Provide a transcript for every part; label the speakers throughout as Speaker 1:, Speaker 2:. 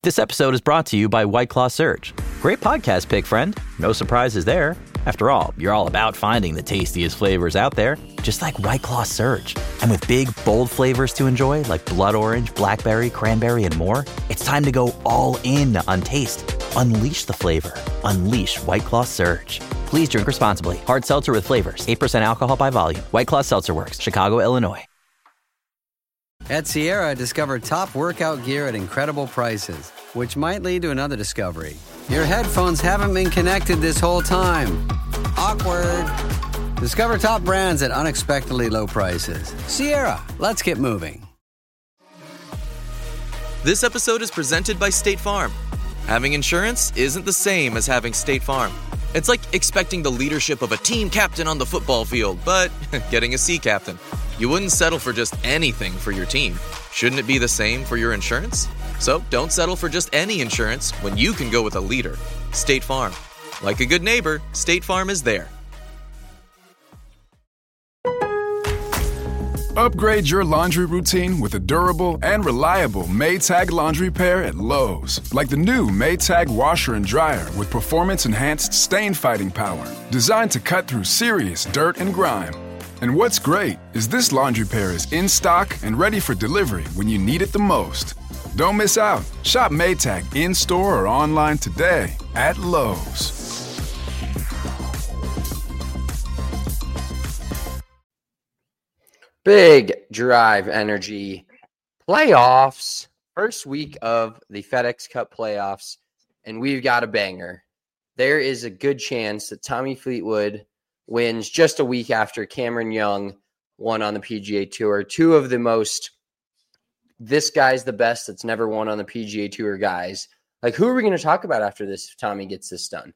Speaker 1: This episode is brought to you by White Claw Surge. Great podcast pick, friend. No surprises there. After all, you're all about finding the tastiest flavors out there, just like White Claw Surge. And with big, bold flavors to enjoy, like blood orange, blackberry, cranberry, and more, it's time to go all in on taste. Unleash the flavor. Unleash White Claw Surge. Please drink responsibly. Hard seltzer with flavors. 8% alcohol by volume. White Claw Seltzer Works. Chicago, Illinois.
Speaker 2: At Sierra, discover top workout gear at incredible prices, which might lead to another discovery. Your headphones haven't been connected this whole time. Awkward. Discover top brands at unexpectedly low prices. Sierra, let's get moving.
Speaker 3: This episode is presented by State Farm. Having insurance isn't the same as having State Farm. It's like expecting the leadership of a team captain on the football field, but getting a sea captain. You wouldn't settle for just anything for your team. Shouldn't it be the same for your insurance? So don't settle for just any insurance when you can go with a leader. State Farm. Like a good neighbor, State Farm is there.
Speaker 4: Upgrade your laundry routine with a durable and reliable Maytag laundry pair at Lowe's. Like the new Maytag washer and dryer with performance-enhanced stain-fighting power. Designed to cut through serious dirt and grime. And what's great is this laundry pair is in stock and ready for delivery when you need it the most. Don't miss out. Shop Maytag in-store or online today at Lowe's.
Speaker 5: Big Drive Energy playoffs. First week of the FedEx Cup playoffs, and we've got a banger. There is a good chance that Tommy Fleetwood wins just a week after Cameron Young won on the PGA Tour. Two of the most, this guy's the best that's never won on the PGA Tour guys. Like, who are we going to talk about after this if Tommy gets this done?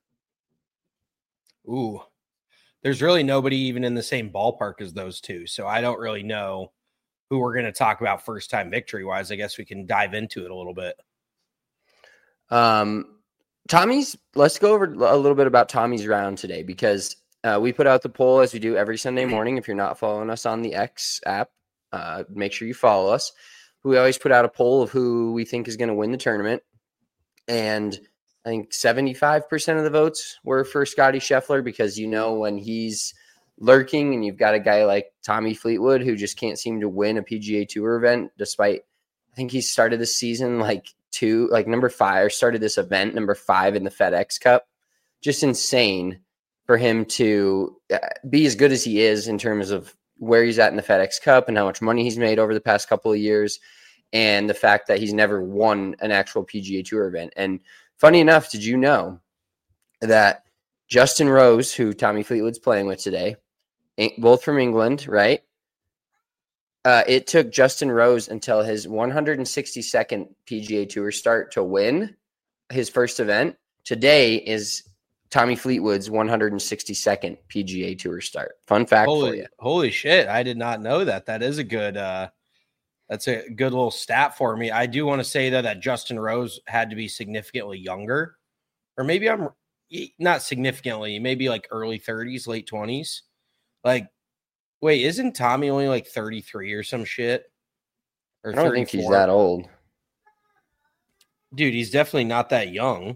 Speaker 6: Ooh, there's really nobody even in the same ballpark as those two. So I don't really know who we're going to talk about first-time victory-wise. I guess we can dive into it a little bit. Let's go over a little bit about Tommy's round today because we put out the poll as we do every Sunday morning. If you're not following us on the X app, make sure you follow us. We always put out a poll of who we think is going to win the tournament. And I think 75% of the votes were for Scotty Scheffler because, you know, when he's lurking and you've got a guy like Tommy Fleetwood who just can't seem to win a PGA Tour event despite, I think he started this season number 5, started this event number 5 in the FedEx Cup. Just insane for him to be as good as he is in terms of where he's at in the FedEx Cup and how much money he's made over the past couple of years, and the fact that he's never won an actual PGA Tour event. And funny enough, did you know that Justin Rose, who Tommy Fleetwood's playing with today, both from England, right? It took Justin Rose until his 162nd PGA Tour start to win his first event. Today is Tommy Fleetwood's 162nd PGA Tour start. Fun fact for you. Holy shit. I did not know that. That is a good, that's a good little stat for me. I do want to say though that Justin Rose had to be significantly younger, or maybe I'm not significantly, maybe like early 30s, late 20s. Like, wait, isn't Tommy only like 33 or some shit? Or
Speaker 5: I don't think he's that old.
Speaker 6: Dude, he's definitely not that young.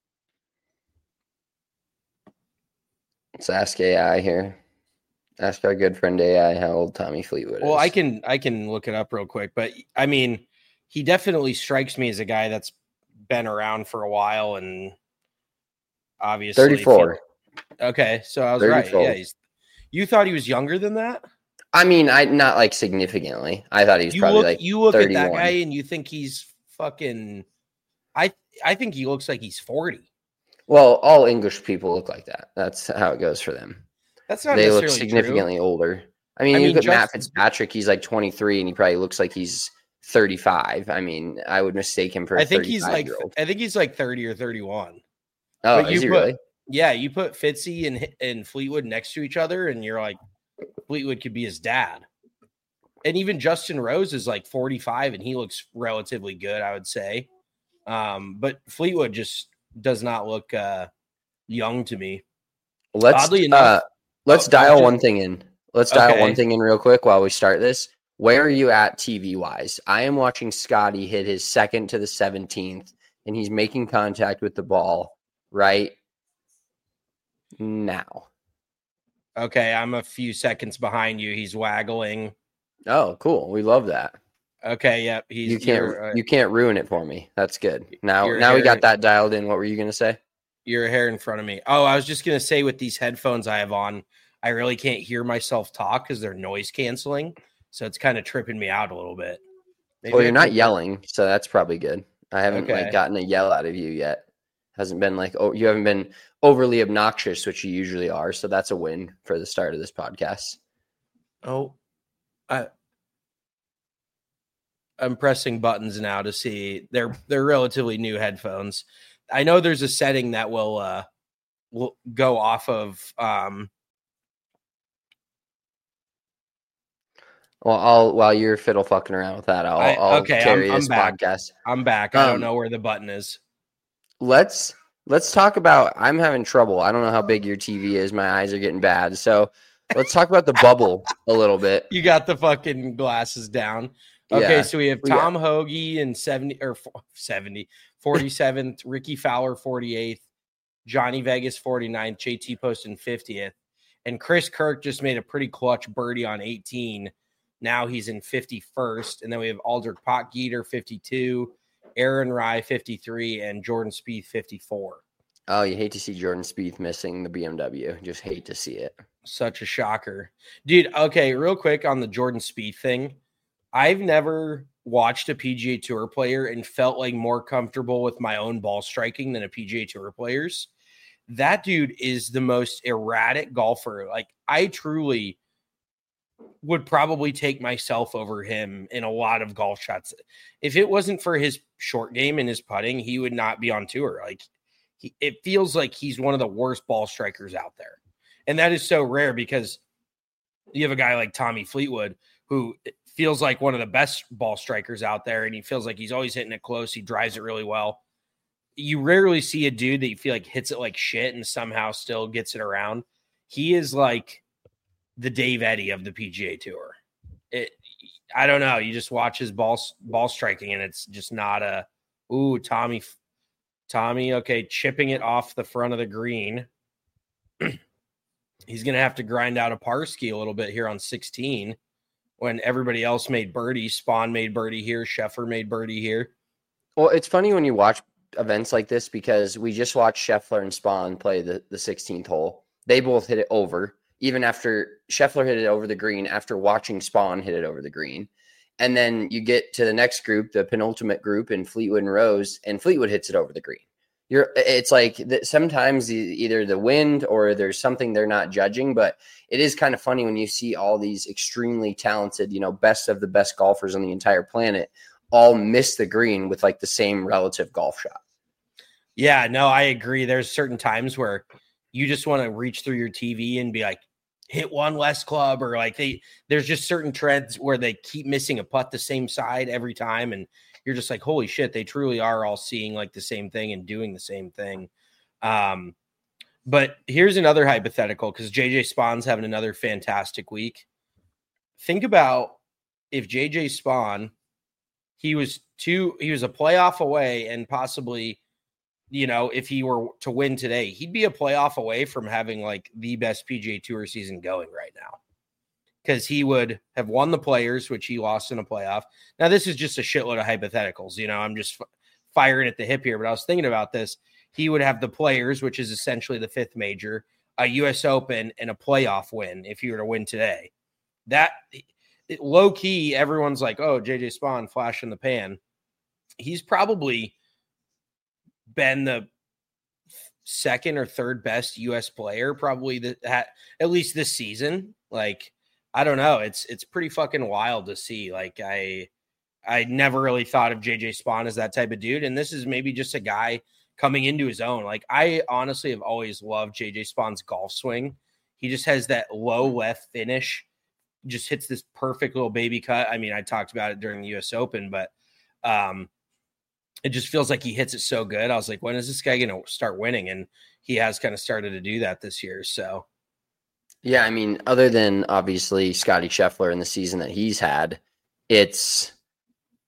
Speaker 5: Let's ask AI here. Ask our good friend AI how old Tommy Fleetwood is.
Speaker 6: Well, I can look it up real quick, but I mean, he definitely strikes me as a guy that's been around for a while and obviously
Speaker 5: 34.
Speaker 6: Okay, so I was
Speaker 5: 34.
Speaker 6: right. Yeah, you thought he was younger than that?
Speaker 5: I mean, not like significantly. I thought he was probably
Speaker 6: you look
Speaker 5: 31.
Speaker 6: at that guy and you think he's fucking. I think he looks like he's 40.
Speaker 5: Well, all English people look like that. That's how it goes for them.
Speaker 6: That's not
Speaker 5: they
Speaker 6: necessarily
Speaker 5: look significantly
Speaker 6: true.
Speaker 5: older. I mean, you look at Matt Fitzpatrick. He's like 23, and he probably looks like he's 35. I mean, I would mistake him for.
Speaker 6: I think he's like 30 or 31.
Speaker 5: Oh, is he really?
Speaker 6: Yeah, you put Fitzy and Fleetwood next to each other, and you're like, Fleetwood could be his dad. And even Justin Rose is like 45, and he looks relatively good, I would say. But Fleetwood just does not look young to me.
Speaker 5: Oddly enough, let's dial one thing in. Let's dial one thing in real quick while we start this. Where are you at TV wise? I am watching Scotty hit his second to the 17th and he's making contact with the ball right now.
Speaker 7: Okay, I'm a few seconds behind you. He's waggling.
Speaker 5: Oh, cool. We love that.
Speaker 7: Okay, yep.
Speaker 5: You can't ruin it for me. That's good. Now
Speaker 7: hair,
Speaker 5: we got that dialed in. What were you going to say?
Speaker 7: Your hair in front of me. Oh, I was just going to say with these headphones I have on, I really can't hear myself talk because they're noise canceling. So it's kind of tripping me out a little bit.
Speaker 5: Well, you're not yelling, so that's probably good. I haven't gotten a yell out of you yet. Hasn't been you haven't been overly obnoxious, which you usually are. So that's a win for the start of this podcast.
Speaker 7: Oh, I'm pressing buttons now to see. They're relatively new headphones. I know there's a setting that will go off of.
Speaker 5: Well, while you're fiddle fucking around with that, I'll carry this podcast.
Speaker 7: I'm back. I don't know where the button is.
Speaker 5: Let's talk about. I'm having trouble. I don't know how big your TV is. My eyes are getting bad. So let's talk about the bubble a little bit.
Speaker 7: You got the fucking glasses down. Okay, yeah. So we have Tom Hoagie in 47th, Ricky Fowler 48th, Johnny Vegas 49th, JT Poston 50th, and Chris Kirk just made a pretty clutch birdie on 18. Now he's in 51st, and then we have Aldrich Potgieter 52, Aaron Rye 53, and Jordan Spieth 54.
Speaker 5: Oh, you hate to see Jordan Spieth missing the BMW. Just hate to see it.
Speaker 7: Such a shocker. Dude, okay, real quick on the Jordan Spieth thing. I've never watched a PGA Tour player and felt like more comfortable with my own ball striking than a PGA Tour player's. That dude is the most erratic golfer. Like, I truly would probably take myself over him in a lot of golf shots. If it wasn't for his short game and his putting, he would not be on tour. Like, it feels like he's one of the worst ball strikers out there. And that is so rare because you have a guy like Tommy Fleetwood who feels like one of the best ball strikers out there, and he feels like he's always hitting it close. He drives it really well. You rarely see a dude that you feel like hits it like shit and somehow still gets it around. He is like the Dave Eddy of the PGA Tour. I don't know. You just watch his ball striking, and it's just not a Tommy. Okay, chipping it off the front of the green. He's gonna have to grind out a par ski a little bit here on 16. When everybody else made birdie, Spawn made birdie here, Scheffler made birdie here.
Speaker 5: Well, it's funny when you watch events like this because we just watched Scheffler and Spawn play the 16th hole. They both hit it over, even after Scheffler hit it over the green, after watching Spawn hit it over the green. And then you get to the next group, the penultimate group in Fleetwood and Rose, and Fleetwood hits it over the green. It's like sometimes either the wind or there's something they're not judging, but it is kind of funny when you see all these extremely talented, best of the best golfers on the entire planet all miss the green with like the same relative golf shot.
Speaker 7: Yeah, no, I agree. There's certain times where you just want to reach through your TV and be like, hit one less club, or like there's just certain trends where they keep missing a putt the same side every time. And you're just like, holy shit, they truly are all seeing like the same thing and doing the same thing. But here's another hypothetical, because JJ Spawn's having another fantastic week. Think about if JJ Spawn, he was a playoff away, and possibly, if he were to win today, he'd be a playoff away from having like the best PGA Tour season going right now, because he would have won the Players, which he lost in a playoff. Now, this is just a shitload of hypotheticals. I'm just firing at the hip here, but I was thinking about this. He would have the Players, which is essentially the fifth major, a U.S. Open, and a playoff win if he were to win today. That low key, everyone's like, oh, JJ Spawn, flash in the pan. He's probably been the second or third best U.S. player, probably at least this season. Like, I don't know. It's pretty fucking wild to see. Like, I never really thought of JJ Spawn as that type of dude. And this is maybe just a guy coming into his own. Like, I honestly have always loved JJ Spawn's golf swing. He just has that low left finish, just hits this perfect little baby cut. I mean, I talked about it during the US Open, but it just feels like he hits it so good. I was like, when is this guy going to start winning? And he has kind of started to do that this year. So,
Speaker 5: yeah, I mean, other than obviously Scotty Scheffler in the season that he's had, it's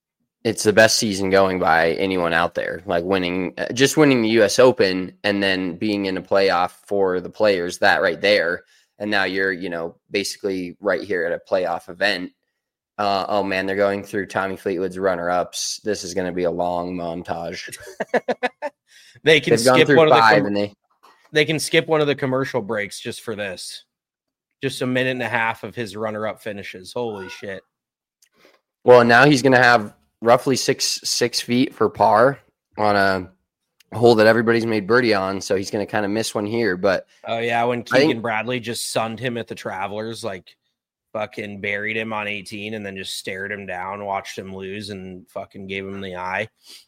Speaker 5: it's the best season going by anyone out there. Like winning the US Open and then being in a playoff for the players, that right there. And now you're, basically right here at a playoff event. Oh man, they're going through Tommy Fleetwood's runner-ups. This is going to be a long montage.
Speaker 7: They can skip they can skip one of the commercial breaks just for this. Just a minute and a half of his runner-up finishes. Holy shit.
Speaker 5: Well, now he's going to have roughly six feet for par on a hole that everybody's made birdie on. So he's going to kind of miss one here. But
Speaker 7: oh yeah, when Keegan Bradley just sunned him at the Travelers, like fucking buried him on 18 and then just stared him down, watched him lose, and fucking gave him the eye.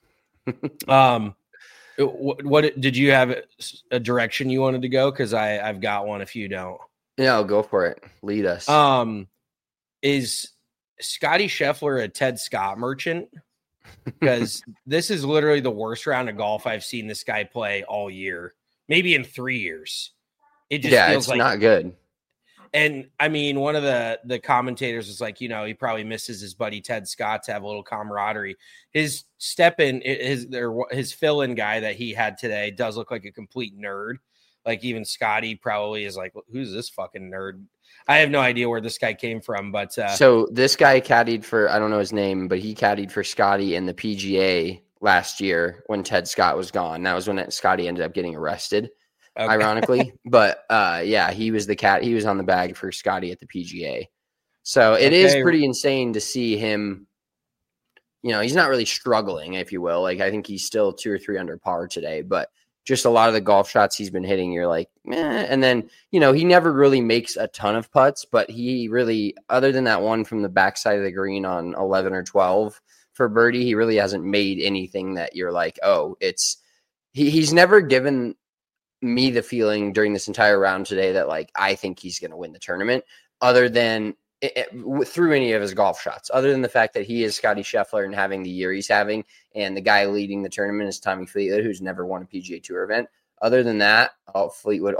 Speaker 7: What did you have a direction you wanted to go? Because I've got one if you don't.
Speaker 5: Yeah, I'll go for it. Lead us.
Speaker 7: Is Scotty Scheffler a Ted Scott merchant? Because this is literally the worst round of golf I've seen this guy play all year, maybe in 3 years. It just feels like
Speaker 5: not good.
Speaker 7: And I mean, one of the commentators was like, he probably misses his buddy Ted Scott to have a little camaraderie. His his fill-in guy that he had today does look like a complete nerd. Like even Scotty probably is like, who's this fucking nerd? I have no idea where this guy came from, but
Speaker 5: so this guy caddied for, I don't know his name, but he caddied for Scotty in the PGA last year when Ted Scott was gone. That was when Scotty ended up getting arrested. Okay. Ironically, but yeah, he was he was on the bag for Scotty at the PGA. So it is pretty insane to see him. He's not really struggling, if you will. Like I think he's still 2 or 3 under par today, but just a lot of the golf shots he's been hitting, you're like, meh. And then, he never really makes a ton of putts, but he really, other than that one from the backside of the green on 11 or 12 for birdie, he really hasn't made anything that you're like, oh, he's never given me the feeling during this entire round today that like I think he's going to win the tournament, other than through any of his golf shots, other than the fact that he is Scotty Scheffler and having the year he's having, and the guy leading the tournament is Tommy Fleetwood, who's never won a PGA Tour event. Other than that, Fleetwood.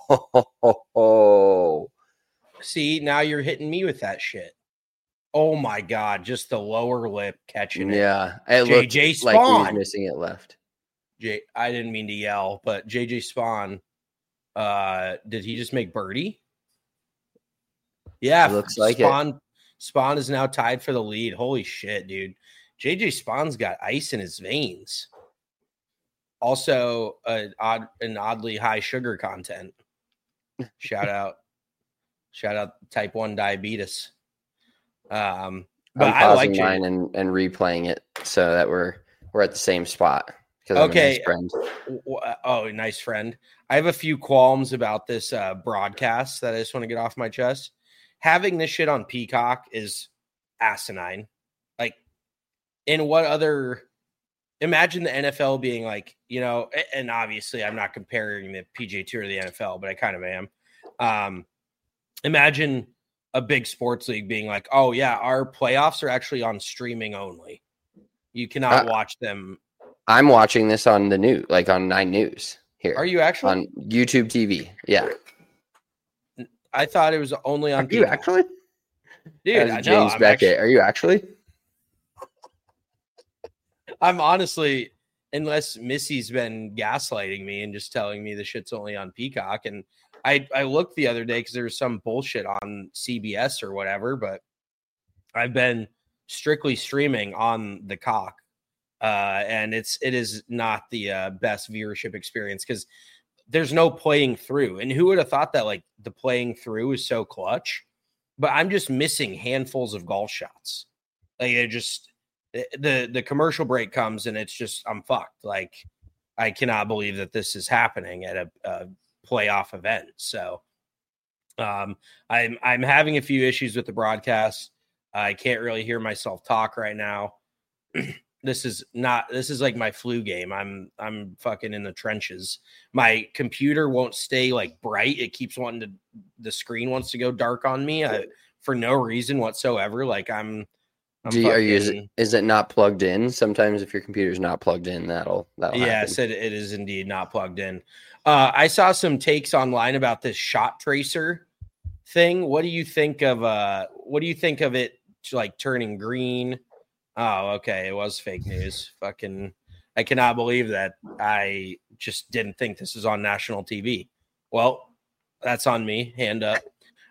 Speaker 7: See, now you're hitting me with that shit. Oh my god, just the lower lip catching it.
Speaker 5: Yeah, it
Speaker 7: JJ Spawn
Speaker 5: like he was missing it left.
Speaker 7: I didn't mean to yell, but JJ Spawn, did he just make birdie? Yeah,
Speaker 5: it looks like
Speaker 7: Spawn is now tied for the lead. Holy shit, dude. JJ Spawn's got ice in his veins. Also, an oddly high sugar content. Shout out type 1 diabetes. But
Speaker 5: I'm
Speaker 7: I like
Speaker 5: mine and replaying it so that we're at the same spot.
Speaker 7: Okay.
Speaker 5: Nice friend.
Speaker 7: Oh, nice friend. I have a few qualms about this broadcast that I just want to get off my chest. Having this shit on Peacock is asinine. Like, in what other... Imagine the NFL being like, and obviously I'm not comparing the PGA Tour to the NFL, but I kind of am. Imagine a big sports league being like, oh yeah, our playoffs are actually on streaming only. You cannot watch them.
Speaker 5: I'm watching this on the news, like on 9 News here.
Speaker 7: Are you actually?
Speaker 5: On YouTube TV. Yeah.
Speaker 7: I thought it was only on.
Speaker 5: Are you actually?
Speaker 7: Dude, I know.
Speaker 5: James Beckett. Are you actually?
Speaker 7: I'm honestly, unless Missy's been gaslighting me and just telling me the shit's only on Peacock. And I looked the other day because there was some bullshit on CBS or whatever, but I've been strictly streaming on the cock. And it is not the best viewership experience because there's no playing through. And who would have thought that like the playing through is so clutch? But I'm just missing handfuls of golf shots. Like it just the commercial break comes and it's just I'm fucked. Like I cannot believe that this is happening at a playoff event. So I'm having a few issues with the broadcast. I can't really hear myself talk right now. This is like my flu game. I'm fucking in the trenches. My computer won't stay like bright. It keeps the screen wants to go dark on me for no reason whatsoever. Like is it not plugged in? Sometimes if your computer's not plugged in, that'll
Speaker 5: yes,
Speaker 7: it is indeed not plugged in. I saw some takes online about this shot tracer thing. What do you think of it like turning green? Oh, okay. It was fake news. Fucking, I cannot believe that. I just didn't think this was on national TV. Well, that's on me. Hand up.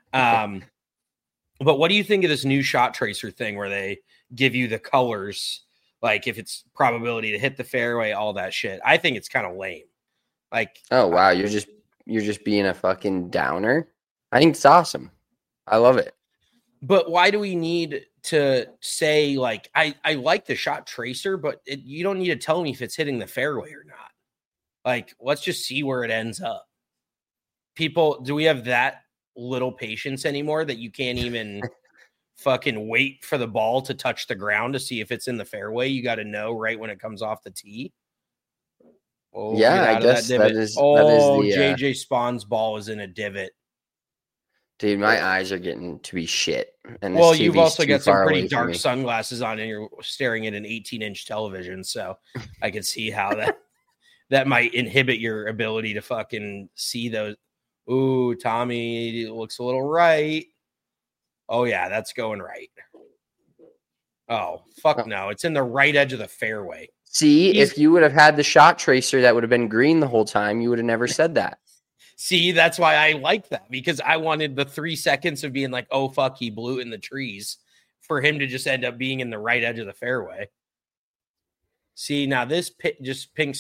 Speaker 7: But what do you think of this new shot tracer thing where they give you the colors, like if it's probability to hit the fairway, all that shit? I think it's kind of lame. Like,
Speaker 5: oh wow, you're just being a fucking downer. I think it's awesome. I love it.
Speaker 7: But why do we need to say, like, I like the shot tracer, but you don't need to tell me if it's hitting the fairway or not. Like, let's just see where it ends up. People, do we have that little patience anymore that you can't even fucking wait for the ball to touch the ground to see if it's in the fairway? You got to know right when it comes off the tee. Oh,
Speaker 5: yeah, I guess that is the
Speaker 7: JJ Spawn's ball is in a divot.
Speaker 5: Dude, my eyes are getting to be shit. And
Speaker 7: well, you've also got some pretty dark sunglasses on, and you're staring at an 18-inch television, so I can see how that might inhibit your ability to fucking see those. Ooh, Tommy looks a little right. Oh, yeah, that's going right. Oh, fuck no. It's in the right edge of the fairway.
Speaker 5: See, if you would have had the shot tracer that would have been green the whole time, you would have never said that.
Speaker 7: See, that's why I like that, because I wanted the 3 seconds of being like, oh, fuck, he blew it in the trees, for him to just end up being in the right edge of the fairway. See, now this just pink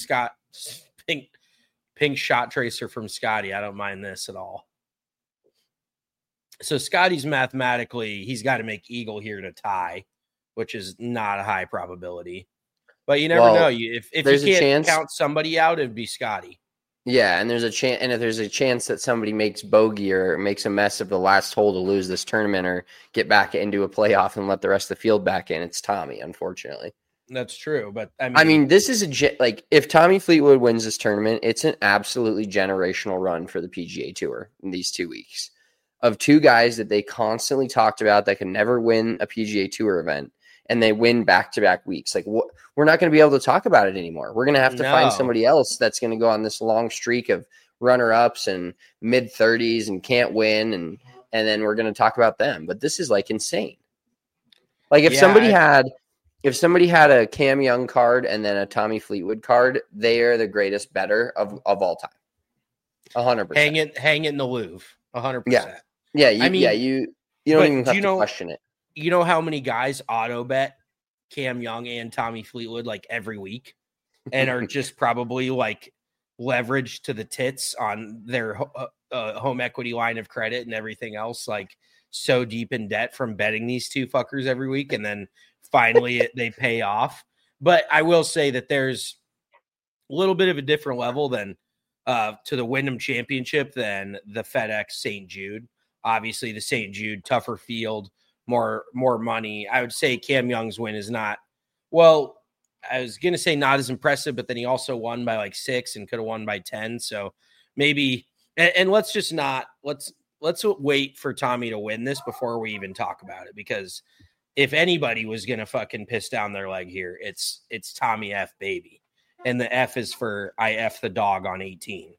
Speaker 7: shot tracer from Scotty. I don't mind this at all. So Scotty's mathematically, he's got to make eagle here to tie, which is not a high probability. But you never know. If you can't count somebody out, it'd be Scotty.
Speaker 5: Yeah, and there's a chance, and if there's a chance that somebody makes bogey or makes a mess of the last hole to lose this tournament or get back into a playoff and let the rest of the field back in, it's Tommy, unfortunately.
Speaker 7: That's true, but
Speaker 5: I mean, this is like if Tommy Fleetwood wins this tournament, it's an absolutely generational run for the PGA Tour in these 2 weeks of two guys that they constantly talked about that can never win a PGA Tour event. And they win back-to-back weeks. Like, we're not going to be able to talk about it anymore. We're going to have to find somebody else that's going to go on this long streak of runner-ups and mid-30s and can't win, and then we're going to talk about them. But this is, like, insane. Like, if somebody had a Cam Young card and then a Tommy Fleetwood card, they are the greatest better of all time. 100%.
Speaker 7: Hang it in the Louvre. 100%.
Speaker 5: Yeah. You don't even have to question it.
Speaker 7: You know how many guys auto bet Cam Young and Tommy Fleetwood like every week and are just probably like leveraged to the tits on their home equity line of credit and everything else, like so deep in debt from betting these two fuckers every week. And then finally they pay off. But I will say that there's a little bit of a different level than to the Wyndham Championship than the FedEx St. Jude. Obviously the St. Jude, tougher field, more money. I would say Cam Young's win is not, well, I was going to say not as impressive, but then he also won by like 6 and could have won by 10. So maybe, and let's just not, let's wait for Tommy to win this before we even talk about it. Because if anybody was going to fucking piss down their leg here, it's Tommy F, baby. And the F is for I F the dog on 18.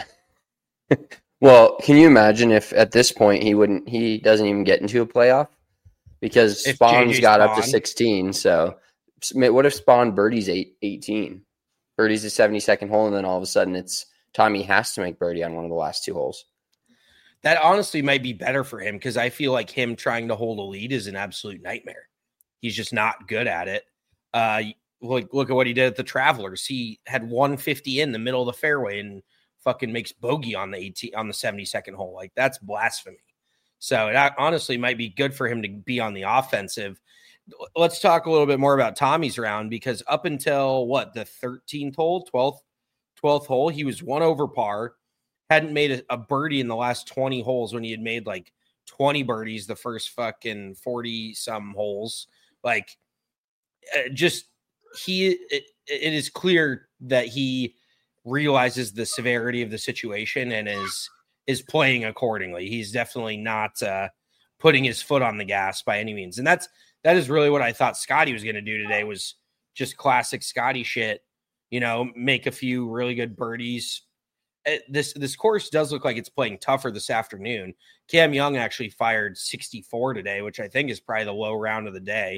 Speaker 5: Well, can you imagine if at this point he doesn't even get into a playoff? Because Spawn's got up to 16. So what if Spawn birdies 18? Birdies the 72nd hole, and then all of a sudden it's Tommy has to make birdie on one of the last 2 holes.
Speaker 7: That honestly might be better for him, because I feel like him trying to hold a lead is an absolute nightmare. He's just not good at it. Look at what he did at the Travelers. He had 150 in the middle of the fairway and fucking makes bogey on the 72nd hole. Like, that's blasphemy. So it honestly might be good for him to be on the offensive. Let's talk a little bit more about Tommy's round, because up until the 13th hole, 12th hole, he was 1 over par, hadn't made a birdie in the last 20 holes when he had made like 20 birdies the first fucking 40 some holes. Like, it is clear that he realizes the severity of the situation and is playing accordingly. He's definitely not putting his foot on the gas by any means. And that is really what I thought Scotty was going to do today, was just classic Scotty shit, make a few really good birdies. This course does look like it's playing tougher this afternoon. Cam Young actually fired 64 today, which I think is probably the low round of the day.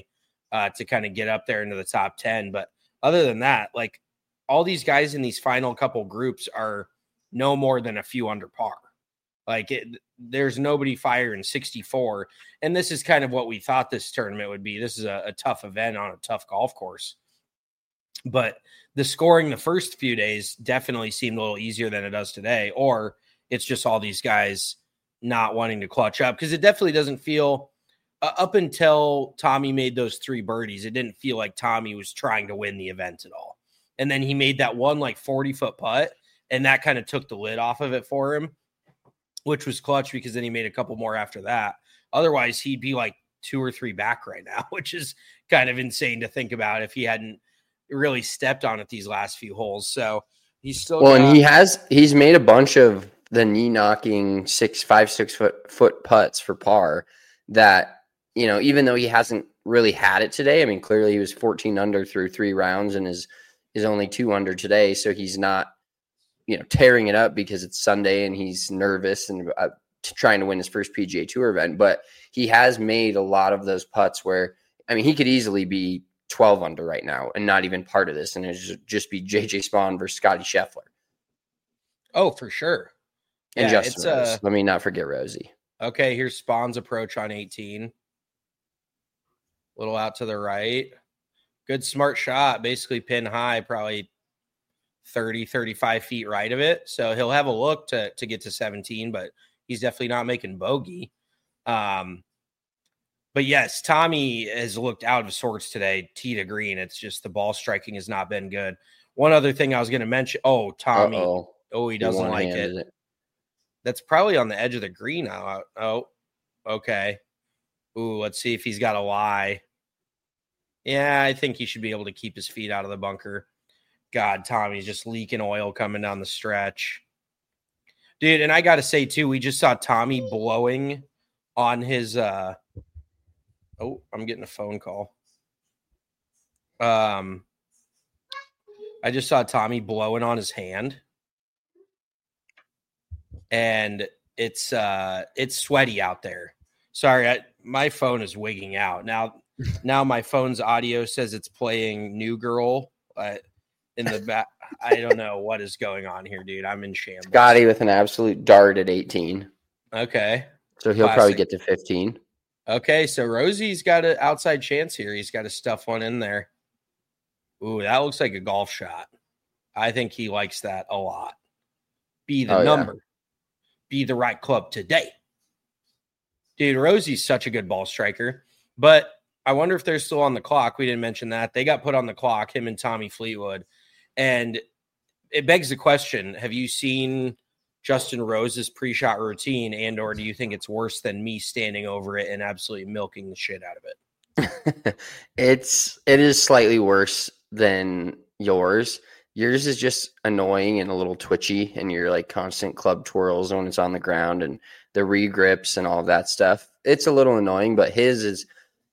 Speaker 7: to kind of get up there into the top 10. But other than that, like all these guys in these final couple groups are no more than a few under par. Like there's nobody firing 64. And this is kind of what we thought this tournament would be. This is a tough event on a tough golf course. But the scoring the first few days definitely seemed a little easier than it does today. Or it's just all these guys not wanting to clutch up, because it definitely doesn't feel up until Tommy made those 3 birdies. It didn't feel like Tommy was trying to win the event at all. And then he made that one like 40-foot putt, and that kind of took the lid off of it for him, which was clutch, because then he made a couple more after that. Otherwise, he'd be like 2 or 3 back right now, which is kind of insane to think about if he hadn't really stepped on it these last few holes. So he's still
Speaker 5: and he's made a bunch of the knee knocking 6 foot putts for par that, you know, even though he hasn't really had it today, I mean, clearly he was 14 under through 3 rounds and is only 2 under today. So he's not, you know, tearing it up because it's Sunday and he's nervous and trying to win his first PGA Tour event. But he has made a lot of those putts where, I mean, he could easily be 12 under right now and not even part of this. And it'd just be JJ Spaun versus Scotty Scheffler.
Speaker 7: Oh, for sure.
Speaker 5: And Justin Rose. Let me not forget Rosie.
Speaker 7: Okay, here's Spawn's approach on 18. Little out to the right. Good smart shot. Basically pin high, probably 30, 35 feet right of it. So he'll have a look to get to 17, but he's definitely not making bogey. But yes, Tommy has looked out of sorts today, tee to green. It's just the ball striking has not been good. One other thing I was going to mention. Oh, Tommy.
Speaker 5: Uh-oh.
Speaker 7: Oh, he doesn't like it. That's probably on the edge of the green. Oh, okay. Ooh, let's see if he's got a lie. Yeah, I think he should be able to keep his feet out of the bunker. God, Tommy's just leaking oil coming down the stretch. Dude, and I got to say, too, we just saw Tommy blowing on his oh, I'm getting a phone call. I just saw Tommy blowing on his hand. And it's sweaty out there. Sorry, my phone is wigging out. Now my phone's audio says it's playing New Girl in the back. I don't know what is going on here, dude. I'm in shambles.
Speaker 5: Scotty with an absolute dart at 18.
Speaker 7: Okay.
Speaker 5: So he'll probably get to 15.
Speaker 7: Okay, so Rosie's got an outside chance here. He's got to stuff one in there. Ooh, that looks like a golf shot. I think he likes that a lot. Be the number. Yeah. Be the right club today. Dude, Rosie's such a good ball striker. But I wonder if they're still on the clock. We didn't mention that. They got put on the clock, him and Tommy Fleetwood. And it begs the question, have you seen Justin Rose's pre-shot routine, and or do you think it's worse than me standing over it and absolutely milking the shit out of it?
Speaker 5: It is slightly worse than yours. Yours is just annoying and a little twitchy, and you're like constant club twirls when it's on the ground and the regrips and all of that stuff. It's a little annoying, but his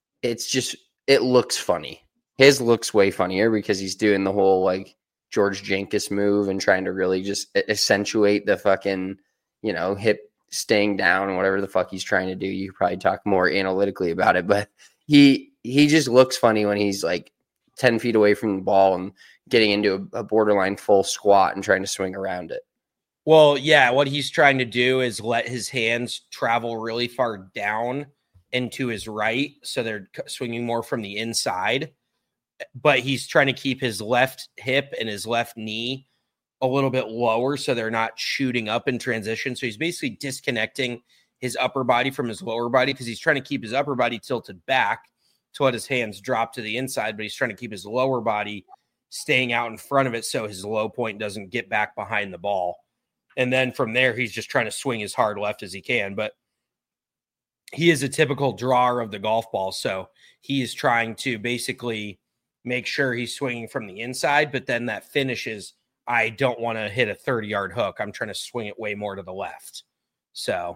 Speaker 5: it looks funny. His looks way funnier because he's doing the whole like George Jenkins move and trying to really just accentuate the fucking, you know, hip staying down and whatever the fuck he's trying to do. You could probably talk more analytically about it, but he just looks funny when he's like 10 feet away from the ball and getting into a borderline full squat and trying to swing around it.
Speaker 7: Well, yeah, what he's trying to do is let his hands travel really far down and to his right, so they're swinging more from the inside. But he's trying to keep his left hip and his left knee a little bit lower so they're not shooting up in transition. So he's basically disconnecting his upper body from his lower body because he's trying to keep his upper body tilted back to let his hands drop to the inside, but he's trying to keep his lower body staying out in front of it so his low point doesn't get back behind the ball. And then from there, he's just trying to swing as hard left as he can. But he is a typical drawer of the golf ball, so he is trying to basically make sure he's swinging from the inside, but then that finishes, I don't want to hit a 30-yard hook. I'm trying to swing it way more to the left. So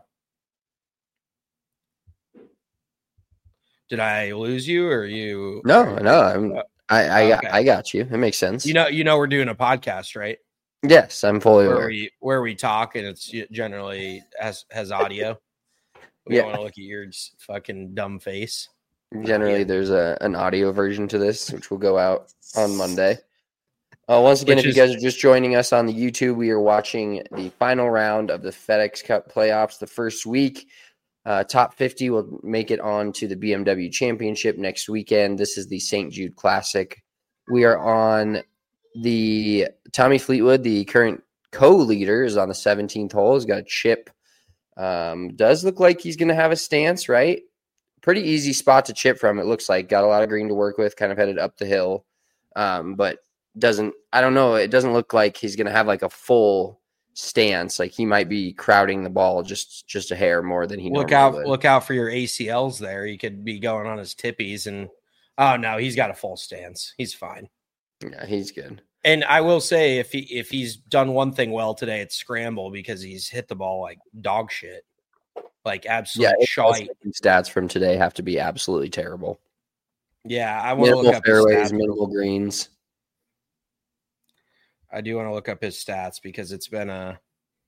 Speaker 7: did I lose you or you?
Speaker 5: No. I got you. It makes sense.
Speaker 7: You know, we're doing a podcast, right?
Speaker 5: Yes, I'm fully aware.
Speaker 7: Where we talk and it's generally has audio. We don't want to look at your fucking dumb face.
Speaker 5: Generally, there's an audio version to this, which will go out on Monday. Once again, if you guys are just joining us on the YouTube, we are watching the final round of the FedEx Cup playoffs. The first week, top 50 will make it on to the BMW Championship next weekend. This is the St. Jude Classic. We are on the Tommy Fleetwood, the current co-leader, is on the 17th hole. He's got a chip. Does look like he's going to have a stance, right? Pretty easy spot to chip from, it looks like. Got a lot of green to work with, kind of headed up the hill. But I don't know. It doesn't look like he's going to have like a full stance. Like he might be crowding the ball just a hair more than he normally would.
Speaker 7: Look out for your ACLs there. He could be going on his tippies and oh no, he's got a full stance. He's fine.
Speaker 5: Yeah, he's good.
Speaker 7: And I will say if he's done one thing well today, it's scramble because he's hit the ball like dog shit. Like absolute shite.
Speaker 5: Stats from today have to be absolutely terrible.
Speaker 7: Yeah, I want to look up
Speaker 5: fairways,
Speaker 7: his stats.
Speaker 5: minimal greens.
Speaker 7: I do want to look up his stats because it's been a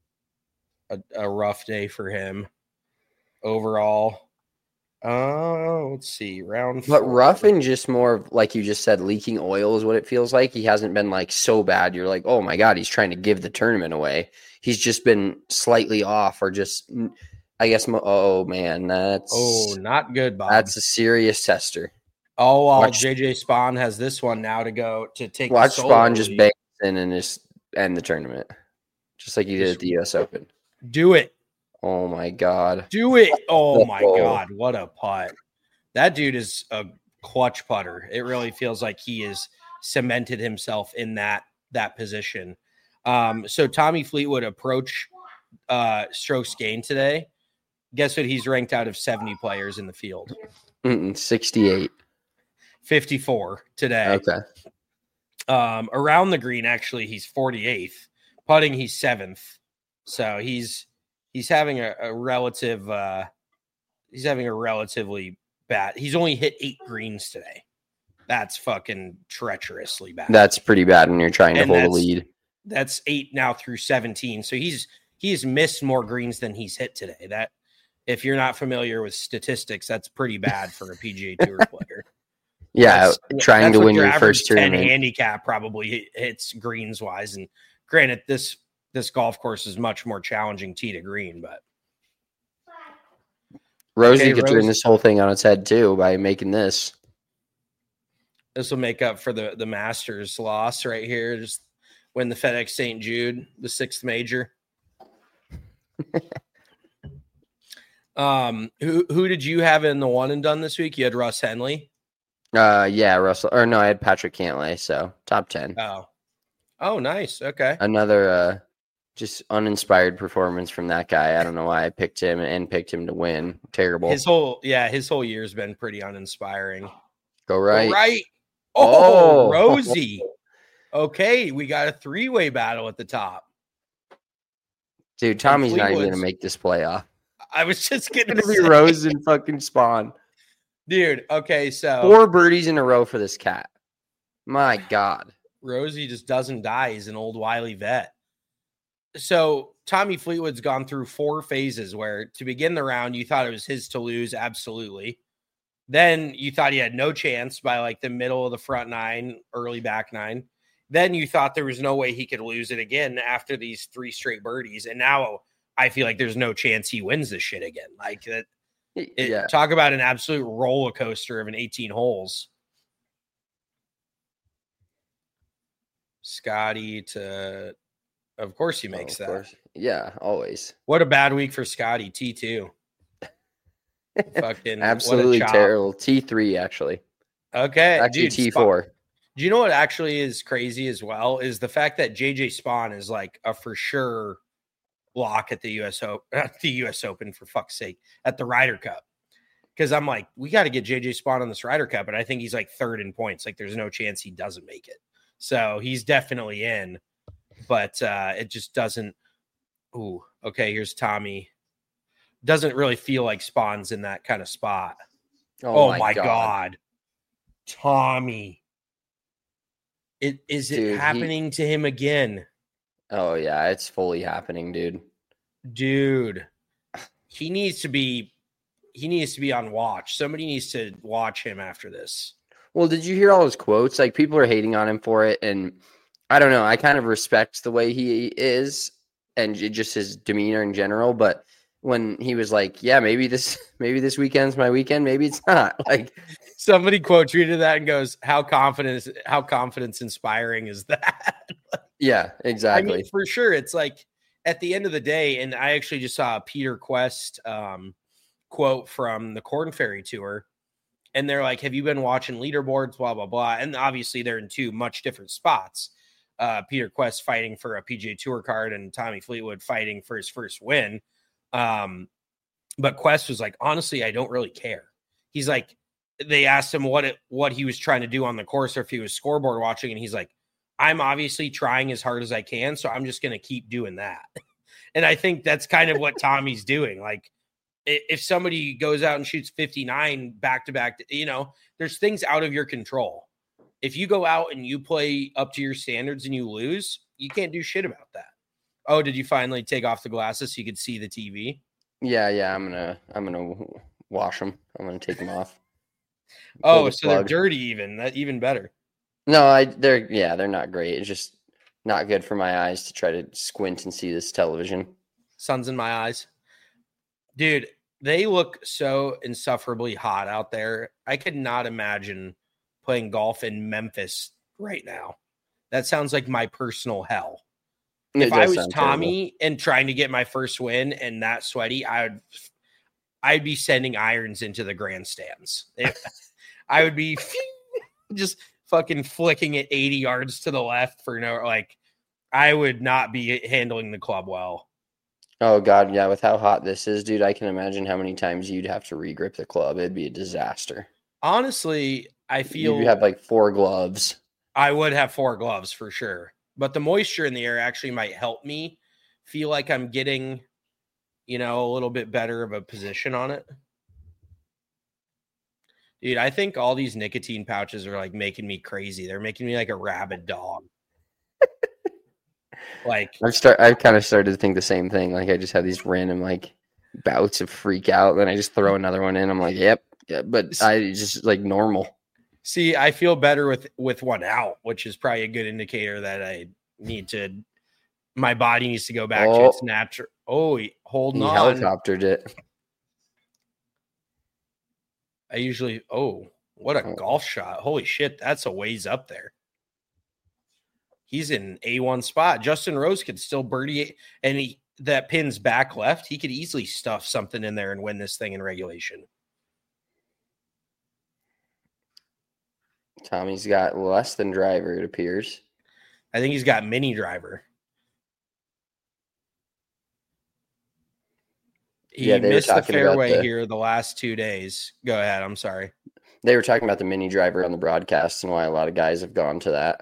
Speaker 7: rough day for him overall. Let's see, round 4.
Speaker 5: But rough and just more of, like you just said, leaking oil is what it feels like. He hasn't been like so bad. You're like, oh my God, he's trying to give the tournament away. He's just been slightly off or just, I guess, oh man,
Speaker 7: not good, Bob.
Speaker 5: That's a serious tester.
Speaker 7: Oh, well, JJ Spawn has this one now to go to take.
Speaker 5: Watch Spawn just bang in and just end the tournament, just like he did at the U.S. Open.
Speaker 7: Do it.
Speaker 5: Oh my God.
Speaker 7: Do it. Oh my God. What a putt. That dude is a clutch putter. It really feels like he has cemented himself in that position. So Tommy Fleetwood approach strokes gained today. Guess what he's ranked out of 70 players in the field?
Speaker 5: 68.
Speaker 7: 54 today.
Speaker 5: Okay.
Speaker 7: Around the green, actually, he's 48th. Putting, he's 7th. So he's having a relative he's having a relatively bad. He's only hit 8 greens today. That's fucking treacherously bad.
Speaker 5: That's pretty bad when you're trying to hold a lead.
Speaker 7: That's 8 now through 17. So he's missed more greens than he's hit today. That, if you're not familiar with statistics, that's pretty bad for a PGA Tour player.
Speaker 5: Yeah, trying to win your first
Speaker 7: 10
Speaker 5: tournament.
Speaker 7: handicap probably hits greens wise. And granted, this golf course is much more challenging tee to green, but
Speaker 5: Rosie could turn this whole thing on its head too by making this.
Speaker 7: This will make up for the Masters loss right here. Just win the FedEx St. Jude, the 6th major. Who did you have in the one and done this week? You had Russ Henley.
Speaker 5: Yeah, Russell. Or no, I had Patrick Cantlay. So top 10.
Speaker 7: Oh, nice. Okay.
Speaker 5: Another just uninspired performance from that guy. I don't know why I picked him and picked him to win. Terrible.
Speaker 7: His whole year's been pretty uninspiring.
Speaker 5: Go right.
Speaker 7: Go right. Oh, Rosie. Okay, we got a 3-way battle at the top.
Speaker 5: Dude, Tommy's not even going to make this playoff.
Speaker 7: I was just going
Speaker 5: to be Rose and fucking Spawn.
Speaker 7: Dude, okay, so
Speaker 5: 4 birdies in a row for this cat. My God.
Speaker 7: Rosie just doesn't die. He's an old wily vet. So Tommy Fleetwood's gone through 4 phases where to begin the round, you thought it was his to lose. Absolutely. Then you thought he had no chance by like the middle of the front 9, early back 9. Then you thought there was no way he could lose it again after these 3 straight birdies. And now I feel like there's no chance he wins this shit again. Like that. Talk about an absolute roller coaster of an 18 holes. Scotty to, of course he makes that.
Speaker 5: Course. Yeah, always.
Speaker 7: What a bad week for Scotty. T2. Fucking
Speaker 5: absolutely terrible. T3 actually.
Speaker 7: Okay,
Speaker 5: actually dude, T4.
Speaker 7: Do you know what actually is crazy as well? Is the fact that JJ Spawn is like a for sure lock at the U.S. Open, for fuck's sake, at the Ryder Cup. Because I'm like, we got to get JJ Spawn on this Ryder Cup, and I think he's like 3rd in points. Like, there's no chance he doesn't make it. So he's definitely in, but it just doesn't. Ooh, okay. Here's Tommy. Doesn't really feel like Spawn's in that kind of spot. Oh my God. Tommy. Is it happening to him again?
Speaker 5: Oh yeah, it's fully happening, dude.
Speaker 7: Dude, he needs to be he needs to be on watch. Somebody needs to watch him after this.
Speaker 5: Well, did you hear all his quotes? Like, people are hating on him for it, and I don't know. I kind of respect the way he is and just his demeanor in general. But when he was like, "Yeah, maybe this weekend's my weekend, maybe it's not," like
Speaker 7: somebody quote tweeted that and goes, "How confidence inspiring is that?"
Speaker 5: Yeah, exactly.
Speaker 7: I mean, for sure, it's like at the end of the day, and I actually just saw a Peter Quest quote from the Corn Ferry Tour. And they're like, have you been watching leaderboards, blah, blah, blah. And obviously they're in two much different spots. Peter Quest fighting for a PGA Tour card and Tommy Fleetwood fighting for his first win. But Quest was like, honestly, I don't really care. He's like, they asked him what he was trying to do on the course or if he was scoreboard watching. And he's like, I'm obviously trying as hard as I can. So I'm just going to keep doing that. And I think that's kind of what Tommy's doing. Like, if somebody goes out and shoots 59 back-to-back, there's things out of your control. If you go out and you play up to your standards and you lose, you can't do shit about that. Oh, did you finally take off the glasses so you could see the TV?
Speaker 5: Yeah. I'm gonna wash them. I'm gonna take them off.
Speaker 7: Oh, so they're dirty even. That even better.
Speaker 5: No, they're not great. It's just not good for my eyes to try to squint and see this television.
Speaker 7: Sun's in my eyes. Dude, they look so insufferably hot out there. I could not imagine playing golf in Memphis right now. That sounds like my personal hell. If I was Tommy and trying to get my first win and that sweaty, I'd be sending irons into the grandstands. I would be just fucking flicking it 80 yards to the left for I would not be handling the club well.
Speaker 5: Oh, God, yeah. With how hot this is, dude, I can imagine how many times you'd have to regrip the club. It'd be a disaster.
Speaker 7: Honestly, I feel...
Speaker 5: You'd have like 4 gloves.
Speaker 7: I would have 4 gloves for sure. But the moisture in the air actually might help me feel like I'm getting, a little bit better of a position on it. Dude, I think all these nicotine pouches are like making me crazy. They're making me like a rabid dog.
Speaker 5: I've kind of started to think the same thing. Like, I just have these random bouts of freak out, then I just throw another one in. I'm like, yep, yeah, but I just normal.
Speaker 7: See, I feel better with one out, which is probably a good indicator that my body needs to go back to its natural. Oh, holding on.
Speaker 5: Helicoptered it.
Speaker 7: I usually, what a golf shot. Holy shit, that's a ways up there. He's in A1 spot. Justin Rose could still birdie, and that pin's back left. He could easily stuff something in there and win this thing in regulation.
Speaker 5: Tommy's got less than driver, it appears.
Speaker 7: I think he's got mini driver. He missed the fairway here the last 2 days. Go ahead. I'm sorry.
Speaker 5: They were talking about the mini driver on the broadcast and why a lot of guys have gone to that.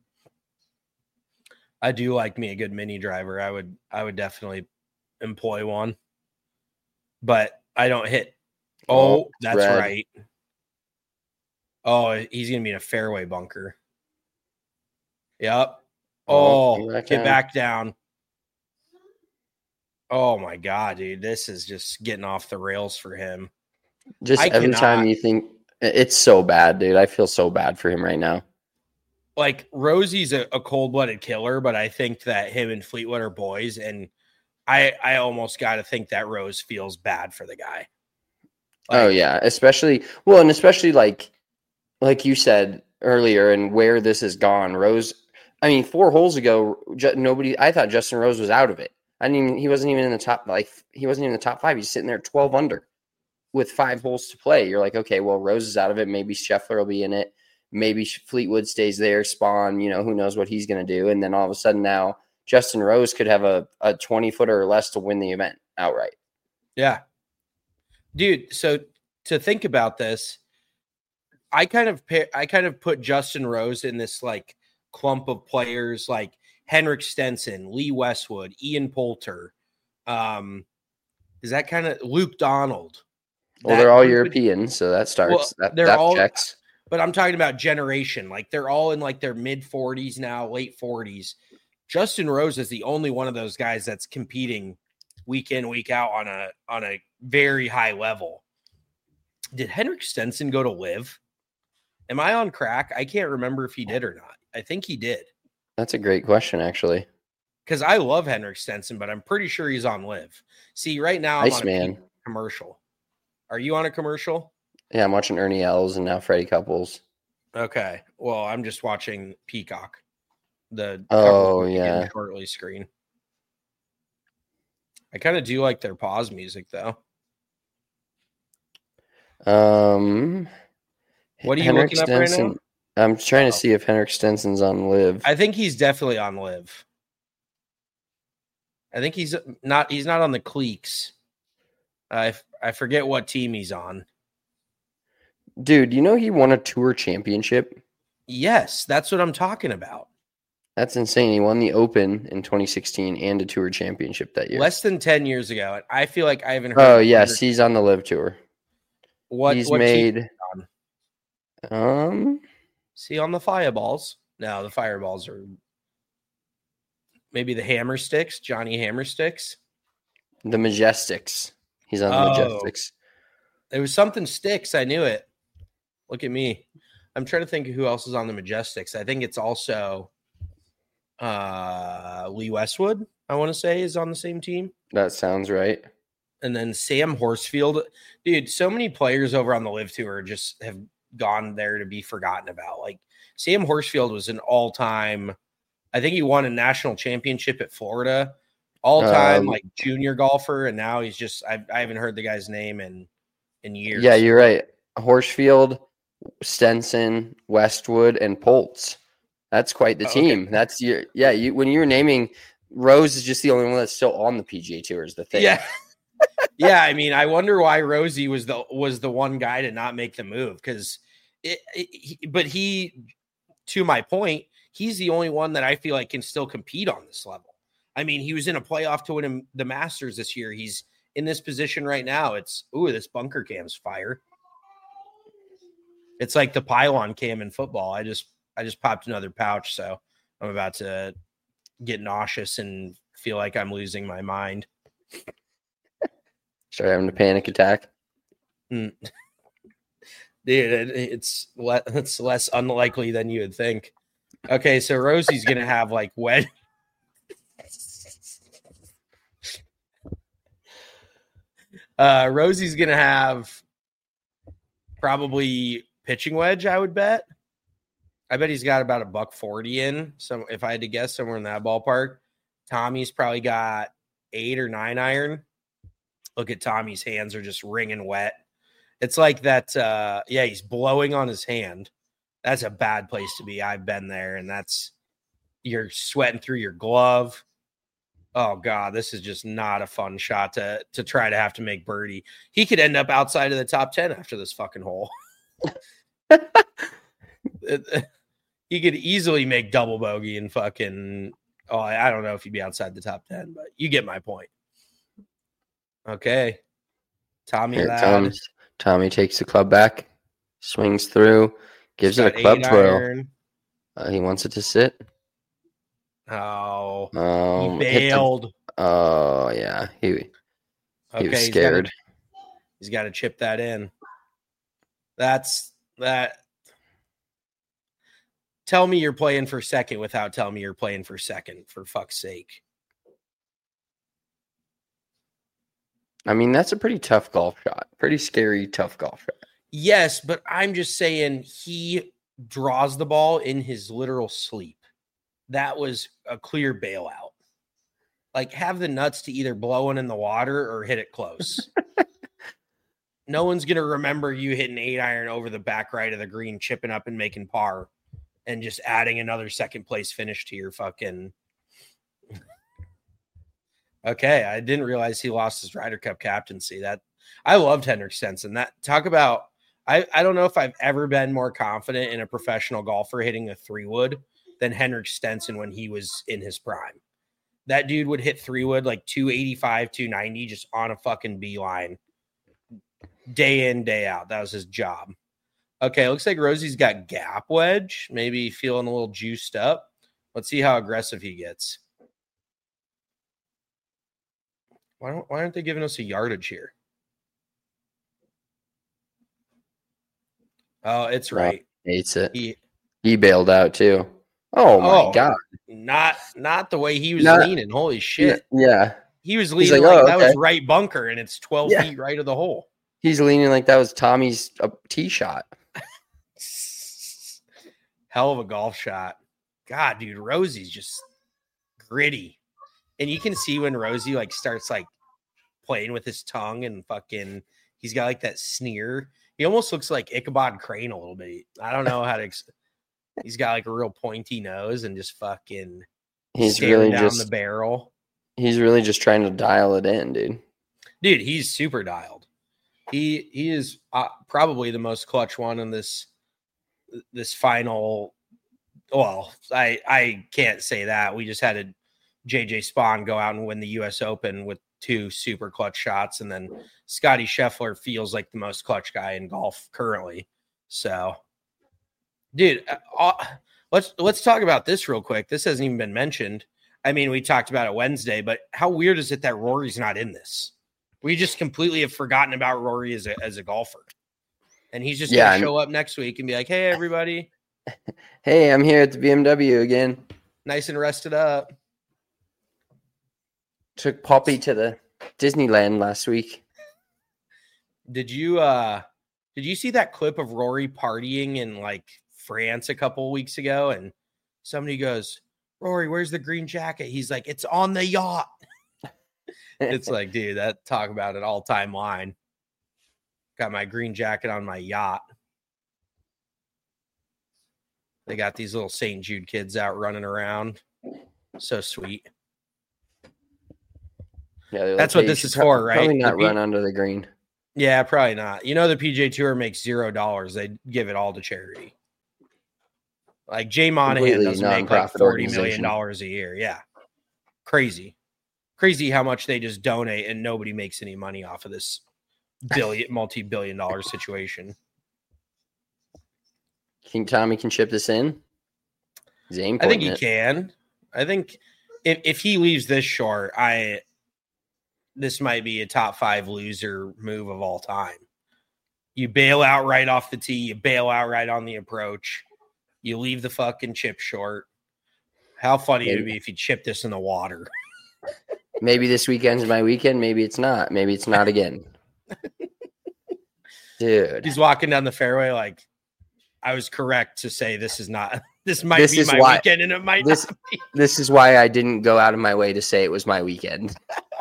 Speaker 7: I do like me a good mini driver. I would definitely employ one, but I don't hit. Oh, that's red. Right. Oh, he's going to be in a fairway bunker. Yep. Get back down. Oh my God, dude. This is just getting off the rails for him.
Speaker 5: Just every time you think it's so bad, dude. I feel so bad for him right now.
Speaker 7: Like, Rosie's a cold-blooded killer, but I think that him and Fleetwood are boys, and I almost got to think that Rose feels bad for the guy.
Speaker 5: Yeah, especially like you said earlier, and where this has gone. Rose, 4 holes ago, I thought Justin Rose was out of it. He wasn't even in the top. He wasn't even in the top 5. He's sitting there 12 under with 5 holes to play. You're like, okay, well, Rose is out of it. Maybe Scheffler will be in it. Maybe Fleetwood stays there, Spawn, who knows what he's going to do. And then all of a sudden now Justin Rose could have a 20-footer or less to win the event outright.
Speaker 7: Yeah. Dude, so to think about this, I kind of put Justin Rose in this clump of players like Henrik Stenson, Lee Westwood, Ian Poulter. Is that kind of Luke Donald?
Speaker 5: Well, they're all European, so that starts. That checks.
Speaker 7: But I'm talking about generation. They're all in their mid 40s now, late 40s. Justin Rose is the only one of those guys that's competing week in, week out on a very high level. Did Henrik Stenson go to live? Am I on crack? I can't remember if he did or not. I think he did.
Speaker 5: That's a great question, actually.
Speaker 7: Because I love Henrik Stenson, but I'm pretty sure he's on live. See, right now I'm on a commercial. Are you on a commercial?
Speaker 5: Yeah, I'm watching Ernie Els and now Freddie Couples.
Speaker 7: Okay. Well, I'm just watching Peacock. The shortly screen. I kind of do like their pause music, though. What are you looking up right now?
Speaker 5: I'm trying to see if Henrik Stenson's on live.
Speaker 7: I think he's definitely on live. I think he's not on the Cleeks. I forget what team he's on.
Speaker 5: Dude, you know he won a tour championship?
Speaker 7: Yes, that's what I'm talking about.
Speaker 5: That's insane. He won the Open in 2016 and a tour championship that year.
Speaker 7: Less than 10 years ago. And I feel like I haven't heard.
Speaker 5: Oh, yes. He's on the live tour.
Speaker 7: What
Speaker 5: made?
Speaker 7: See, on the Fireballs. No, the Fireballs are maybe the Hammersticks, Johnny Hammersticks.
Speaker 5: The Majestics. He's on the Majestics.
Speaker 7: There was something sticks. I knew it. Look at me. I'm trying to think of who else is on the Majestics. I think it's also Lee Westwood, I want to say, is on the same team.
Speaker 5: That sounds right.
Speaker 7: And then Sam Horsfield. Dude, so many players over on the live tour just have gone there to be forgotten about. Like Sam Horsfield was an all-time, I think he won a national championship at Florida, all-time like junior golfer, and now he's just I haven't heard the guy's name in years.
Speaker 5: Yeah, you're right. Horsfield, Stenson, Westwood, and Poltz. That's quite the team. Okay. That's when you were naming, Rose is just the only one that's still on the PGA Tour is the thing.
Speaker 7: Yeah. Yeah, I mean, I wonder why Rosie was the one guy to not make the move because but he, to my point, he's the only one that I feel like can still compete on this level. I mean, he was in a playoff to win the Masters this year. He's in this position right now. It's this bunker cam's fire. It's like the pylon cam in football. I just popped another pouch, so I'm about to get nauseous and feel like I'm losing my mind.
Speaker 5: Start having a panic attack.
Speaker 7: Dude, it's less unlikely than you would think. Okay, so Rosie's gonna have like wedge. Rosie's gonna have probably pitching wedge, I would bet. I bet he's got about $140 in. So if I had to guess, somewhere in that ballpark. Tommy's probably got 8 or 9 iron. Look at Tommy's hands are just wringing wet. It's like that. He's blowing on his hand. That's a bad place to be. I've been there, and you're sweating through your glove. Oh God, this is just not a fun shot to try to have to make birdie. He could end up outside of the top 10 after this fucking hole. He could easily make double bogey and fucking. Oh, I don't know if he'd be outside the top 10, but you get my point. Okay, Tommy.
Speaker 5: Tommy takes the club back, swings through, gives it a club twirl. He wants it to sit.
Speaker 7: Oh, he bailed.
Speaker 5: Yeah, he was scared.
Speaker 7: He's got to chip that in. That's that. Tell me you're playing for second without telling me you're playing for second, for fuck's sake.
Speaker 5: I mean, that's a pretty tough golf shot. Pretty scary, tough golf shot.
Speaker 7: Yes, but I'm just saying he draws the ball in his literal sleep. That was a clear bailout. Like, have the nuts to either blow it in the water or hit it close. No one's going to remember you hitting 8 iron over the back right of the green, chipping up and making par, and just adding another second place finish to your fucking... Okay, I didn't realize he lost his Ryder Cup captaincy. That I loved Henrik Stenson. That talk about I don't know if I've ever been more confident in a professional golfer hitting a 3-wood than Henrik Stenson when he was in his prime. That dude would hit 3-wood like 285, 290 just on a fucking beeline. Day in, day out. That was his job. Okay, looks like Rosie's got gap wedge. Maybe feeling a little juiced up. Let's see how aggressive he gets. Why aren't they giving us a yardage here? Oh, it's right.
Speaker 6: Hates it.
Speaker 7: He
Speaker 6: He bailed out too. Oh my God.
Speaker 7: Not the way he was
Speaker 6: Not-
Speaker 7: leaning. Holy shit.
Speaker 6: Yeah.
Speaker 7: He was
Speaker 6: He's
Speaker 7: leaning
Speaker 6: like,
Speaker 7: like
Speaker 6: "Oh,
Speaker 7: that was
Speaker 6: okay."
Speaker 7: right bunker, and it's 12
Speaker 6: Yeah.
Speaker 7: feet right of the hole.
Speaker 6: He's leaning like that was Tommy's tee shot.
Speaker 7: Hell of a golf shot. God, dude, Rosie's just gritty. And you can see when Rosie like starts like playing with his tongue and fucking he's got like that sneer. He almost looks like Ichabod Crane a little bit. I don't know how to he's got like a real pointy nose and just fucking
Speaker 6: He's
Speaker 7: staring
Speaker 6: really
Speaker 7: down
Speaker 6: just
Speaker 7: the barrel.
Speaker 6: He's really just trying to dial it in, dude.
Speaker 7: Dude, he's super dialed. He is probably the most clutch one in this final. Well, I can't say that. We just had a JJ Spawn go out and win the U.S. Open with 2 super clutch shots, and then Scotty Scheffler feels like the most clutch guy in golf currently. So, dude, let's talk about this real quick. This hasn't even been mentioned. I mean, we talked about it Wednesday, but how weird is it that Rory's not in this? We just completely have forgotten about Rory as a golfer. And he's just going to show up next week and be like, hey, everybody.
Speaker 6: Hey, I'm here at the BMW again.
Speaker 7: Nice and rested up.
Speaker 6: Took Poppy to the Disneyland last week.
Speaker 7: Did you see that clip of Rory partying in like France a couple of weeks ago? And somebody goes, Rory, where's the green jacket? He's like, it's on the yacht. It's like, dude, that talk about an all-time line. Got my green jacket on my yacht. They got these little St. Jude kids out running around. So sweet.
Speaker 6: Yeah,
Speaker 7: that's what this is for, right?
Speaker 6: Probably not run under the green.
Speaker 7: Yeah, probably not. You know, the PGA Tour makes $0. They give it all to charity. Like Jay Monahan doesn't make like $40 million a year. Yeah. Crazy how much they just donate and nobody makes any money off of this multi-billion dollar situation.
Speaker 6: Think Tommy can chip this in?
Speaker 7: I think he can. I think if he leaves this short, this might be a top 5 loser move of all time. You bail out right off the tee. You bail out right on the approach. You leave the fucking chip short. How funny it would be if you chipped this in the water.
Speaker 6: Maybe this weekend's my weekend. Maybe it's not. Maybe it's not again. Dude.
Speaker 7: He's walking down the fairway like, I was correct to say this might be my weekend, and it might not be.
Speaker 6: This is why I didn't go out of my way to say it was my weekend.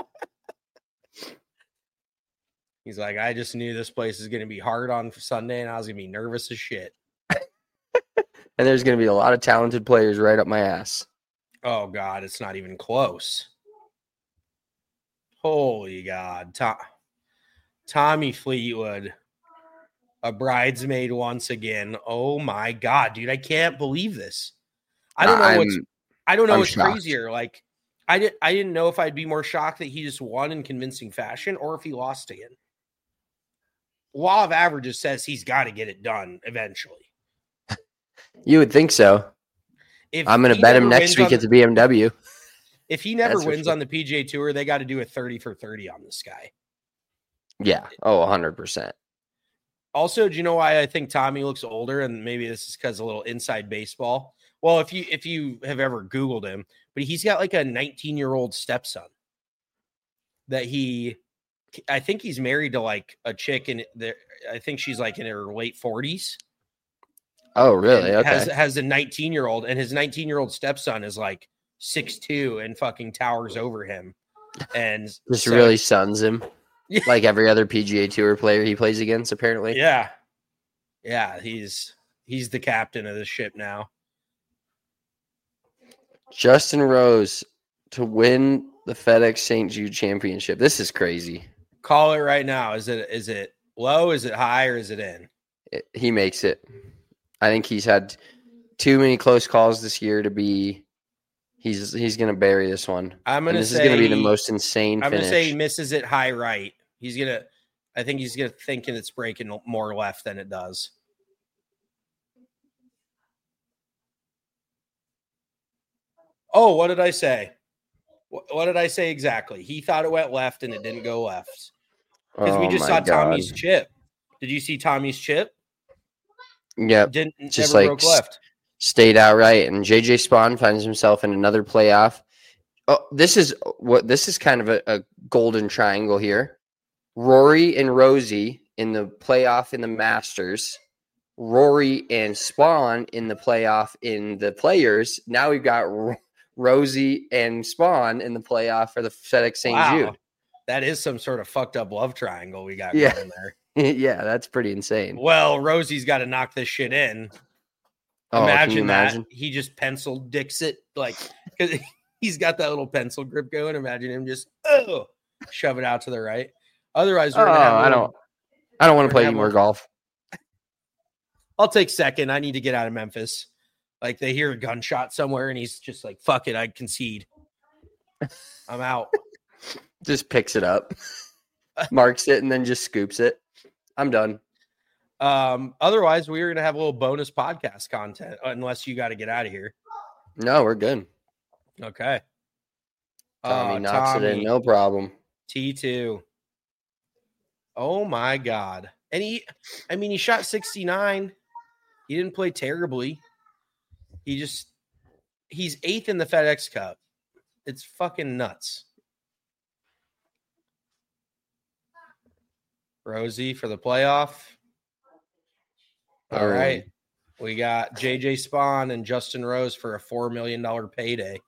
Speaker 7: He's like, I just knew this place is going to be hard on Sunday, and I was going to be nervous as shit.
Speaker 6: And there's going to be a lot of talented players right up my ass.
Speaker 7: Oh, God, it's not even close. Holy God. Tommy Fleetwood, a bridesmaid once again. Oh, my God, dude, I can't believe this. I don't know what's crazier. Like, I didn't know if I'd be more shocked that he just won in convincing fashion or if he lost again. Law of averages says he's got to get it done eventually.
Speaker 6: You would think so. I'm going to bet him next week at the BMW.
Speaker 7: If he never wins on the PGA Tour, they got to do a 30 for 30 on this guy.
Speaker 6: Yeah. Oh, 100%.
Speaker 7: Also, do you know why I think Tommy looks older? And maybe this is because a little inside baseball. Well, if you have ever Googled him, but he's got like a 19-year-old stepson that I think he's married to like a chick, and I think she's like in her late 40s.
Speaker 6: Oh, really? Okay.
Speaker 7: Has a 19-year-old, and his 19-year-old stepson is like 6'2" and fucking towers over him. And
Speaker 6: just really suns him. Like every other PGA Tour player he plays against, apparently.
Speaker 7: Yeah. Yeah, he's the captain of the ship now.
Speaker 6: Justin Rose to win the FedEx St. Jude Championship. This is crazy.
Speaker 7: Call it right now. Is it low? Is it high? Or is it in?
Speaker 6: He makes it. I think he's had too many close calls this year to be. He's going to bury this one. This is going to be the most insane finish.
Speaker 7: I'm going to say he misses it high right. I think he's going to think it's breaking more left than it does. Oh, what did I say? What did I say exactly? He thought it went left and it didn't go left. Because we just saw Tommy's chip. Did you see Tommy's chip?
Speaker 5: Yep.
Speaker 7: Didn't
Speaker 5: Just
Speaker 7: never
Speaker 5: like
Speaker 7: broke left.
Speaker 5: stayed outright. And JJ Spawn finds himself in another playoff. Oh, this is kind of a golden triangle here. Rory and Rosie in the playoff in the Masters. Rory and Spawn in the playoff in the Players. Now we've got Rosie and Spawn in the playoff for the FedEx St. Jude.
Speaker 7: That is some sort of fucked up love triangle we got going there.
Speaker 5: Yeah, that's pretty insane.
Speaker 7: Well, Rosie's got to knock this shit in.
Speaker 5: Oh,
Speaker 7: Imagine that. He just pencil dicks it, like, because he's got that little pencil grip going. Imagine him just shove it out to the right. Otherwise, we're gonna have
Speaker 5: I don't want to play any more golf.
Speaker 7: I'll take second. I need to get out of Memphis. Like, they hear a gunshot somewhere, and he's just like, fuck it, I concede. I'm out.
Speaker 5: Just picks it up, marks it, and then just scoops it. I'm done.
Speaker 7: Otherwise, we were going to have a little bonus podcast content, unless you got to get out of here.
Speaker 5: No, we're good.
Speaker 7: Okay.
Speaker 5: Tommy knocks it in, no problem.
Speaker 7: T2. Oh, my God. And he shot 69. He didn't play terribly. He's 8th in the FedEx Cup. It's fucking nuts. Rosie for the playoff. All right. We got JJ Spawn and Justin Rose for a $4 million payday.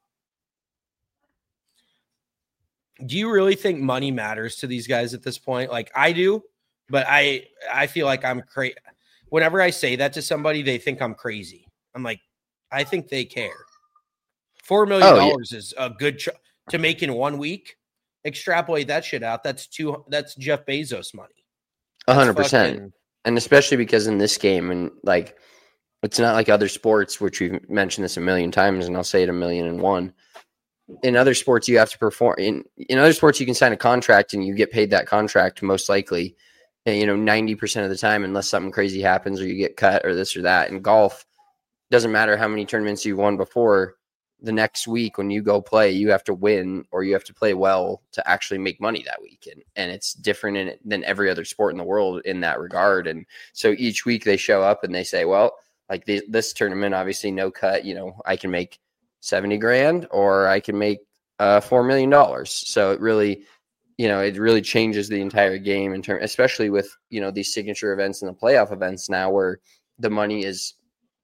Speaker 7: Do you really think money matters to these guys at this point? Like, I do, but I feel like I'm crazy. Whenever I say that to somebody, they think I'm crazy. I'm like, I think they care. $4 million is a good to make in 1 week. Extrapolate that shit out. That's Jeff Bezos money.
Speaker 5: 100%. And especially because in this game, and like, it's not like other sports, which we've mentioned this a million times, and I'll say it 1,000,001. In other sports, you have to perform. In other sports, you can sign a contract and you get paid that contract most likely, 90% of the time, unless something crazy happens or you get cut or this or that. In golf, doesn't matter how many tournaments you've won before. The next week when you go play, you have to win or you have to play well to actually make money that weekend. And it's different than every other sport in the world in that regard. And so each week they show up and they say, well, like this tournament, obviously no cut, I can make 70 grand or I can make $4 million. So it really, it really changes the entire game in terms, especially with, these signature events and the playoff events now where the money it's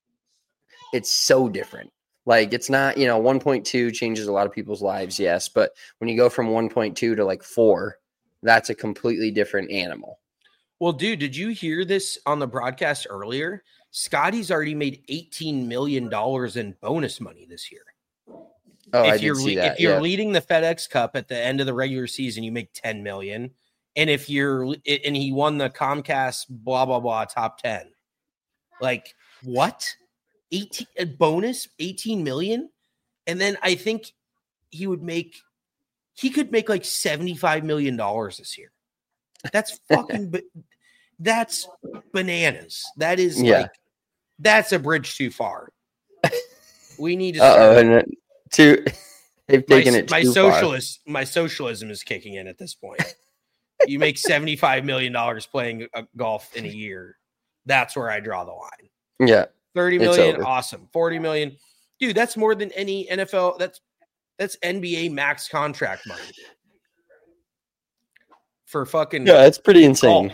Speaker 5: so different. Like, it's not, 1.2 changes a lot of people's lives, yes. But when you go from 1.2 to like 4, that's a completely different animal.
Speaker 7: Well, dude, did you hear this on the broadcast earlier? Scotty's already made $18 million in bonus money this year.
Speaker 5: Oh, I did see that.
Speaker 7: If you're leading the FedEx Cup at the end of the regular season, you make $10 million. And and he won the Comcast blah, blah, blah, top 10. Like, what? 18 a bonus 18 million, and then I think he could make like $75 million this year. That's fucking that's bananas. That is like, that's a bridge too far. We need to
Speaker 5: they've taken it too far.
Speaker 7: My socialism is kicking in at this point. You make $75 million playing golf in a year. That's where I draw the line.
Speaker 5: Yeah.
Speaker 7: 30 million, awesome. 40 million. Dude, that's more than any NFL. That's NBA max contract money. For fucking
Speaker 5: it's pretty insane.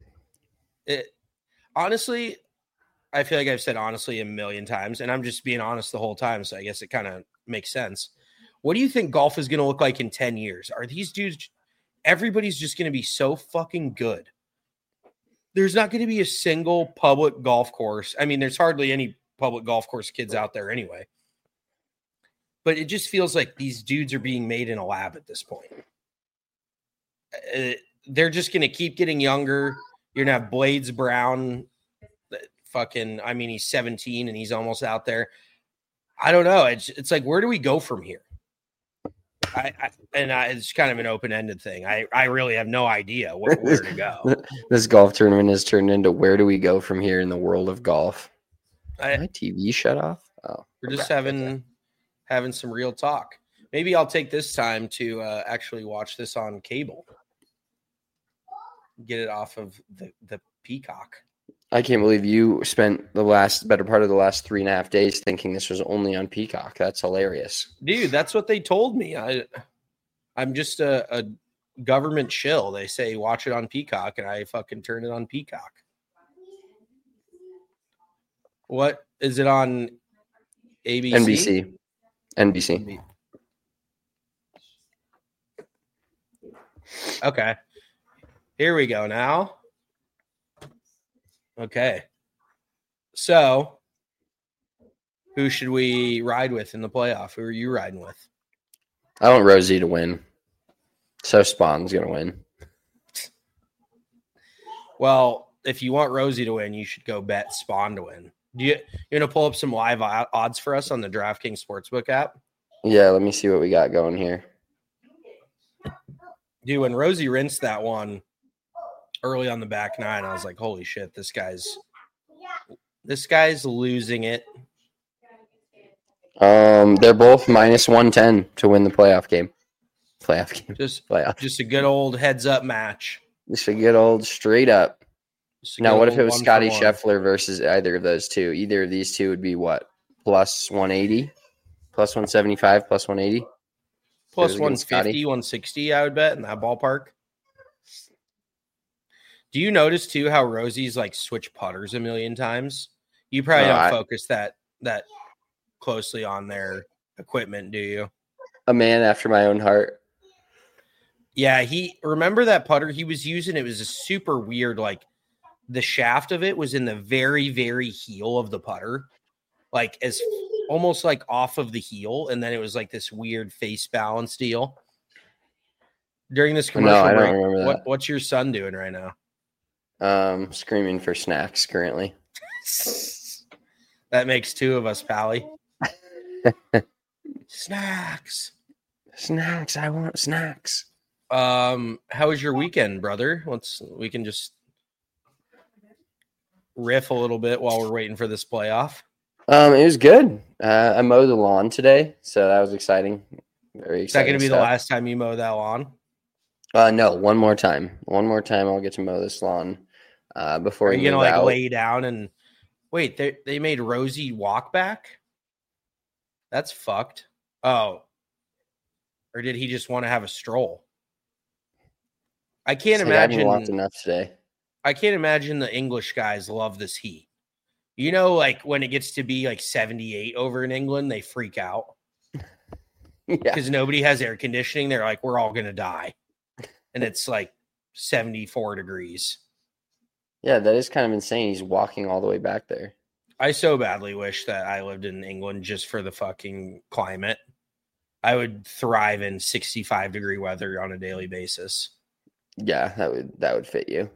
Speaker 7: Honestly, I feel like I've said honestly a million times, and I'm just being honest the whole time, so I guess it kind of makes sense. What do you think golf is going to look like in 10 years? Are these dudes, everybody's just going to be so fucking good? There's not going to be a single public golf course. I mean, there's hardly any public golf course kids out there anyway. But it just feels like these dudes are being made in a lab at this point. They're just going to keep getting younger. You're going to have Blades Brown. He's 17 and he's almost out there. I don't know. It's like, where do we go from here? It's kind of an open-ended thing. I really have no idea where to go.
Speaker 5: This golf tournament has turned into where do we go from here in the world of golf? My TV shut off? Oh,
Speaker 7: we're just having some real talk. Maybe I'll take this time to actually watch this on cable. Get it off of the Peacock.
Speaker 5: I can't believe you spent the better part of the last 3.5 days thinking this was only on Peacock. That's hilarious.
Speaker 7: Dude, that's what they told me. I'm just a government shill. They say watch it on Peacock, and I fucking turn it on Peacock. What is it on? ABC?
Speaker 5: NBC.
Speaker 7: Okay. Here we go now. Okay. So, who should we ride with in the playoff? Who are you riding with?
Speaker 5: I want Rosie to win. So Spawn's going to win.
Speaker 7: Well, if you want Rosie to win, you should go bet Spawn to win. You're going to pull up some live odds for us on the DraftKings Sportsbook app?
Speaker 5: Yeah, let me see what we got going here.
Speaker 7: Dude, when Rosie rinsed that one early on the back nine, I was like, holy shit, this guy's losing it.
Speaker 5: They're both minus 110 to win the playoff game.
Speaker 7: Just a good old heads up match.
Speaker 5: Just a good old straight up. Now, what if it was Scotty Scheffler versus either of those two? Either of these two would be what? Plus 180? Plus 175? Plus 180?
Speaker 7: Plus 150, 160, I would bet, in that ballpark. Do you notice, too, how Rosie's, like, switch putters a million times? You probably don't focus that closely on their equipment, do you?
Speaker 5: A man after my own heart.
Speaker 7: Yeah, remember that putter he was using? It was a super weird, like, the shaft of it was in the very, very heel of the putter, like as almost like off of the heel. And then it was like this weird face balance deal. During this commercial break, what's your son doing right now?
Speaker 5: Screaming for snacks currently.
Speaker 7: That makes two of us, Pally. Snacks.
Speaker 5: I want snacks.
Speaker 7: How was your weekend, brother? We can just riff a little bit while we're waiting for this playoff.
Speaker 5: It was good. I mowed the lawn today, so that was exciting. Very exciting.
Speaker 7: Is that going to be the last time you mow that lawn?
Speaker 5: No, one more time. I'll get to mow this lawn before.
Speaker 7: Are you going to lay down and wait? They made Rosie walk back. That's fucked. Oh, or did he just want to have a stroll? I can't imagine.
Speaker 5: I haven't walked enough today.
Speaker 7: I can't imagine the English guys love this heat. You know, like when it gets to be like 78 over in England, they freak out. Yeah. Because nobody has air conditioning. They're like, we're all going to die. And it's like 74 degrees.
Speaker 5: Yeah, that is kind of insane. He's walking all the way back there.
Speaker 7: I so badly wish that I lived in England just for the fucking climate. I would thrive in 65-degree weather on a daily basis.
Speaker 5: Yeah, that would fit you.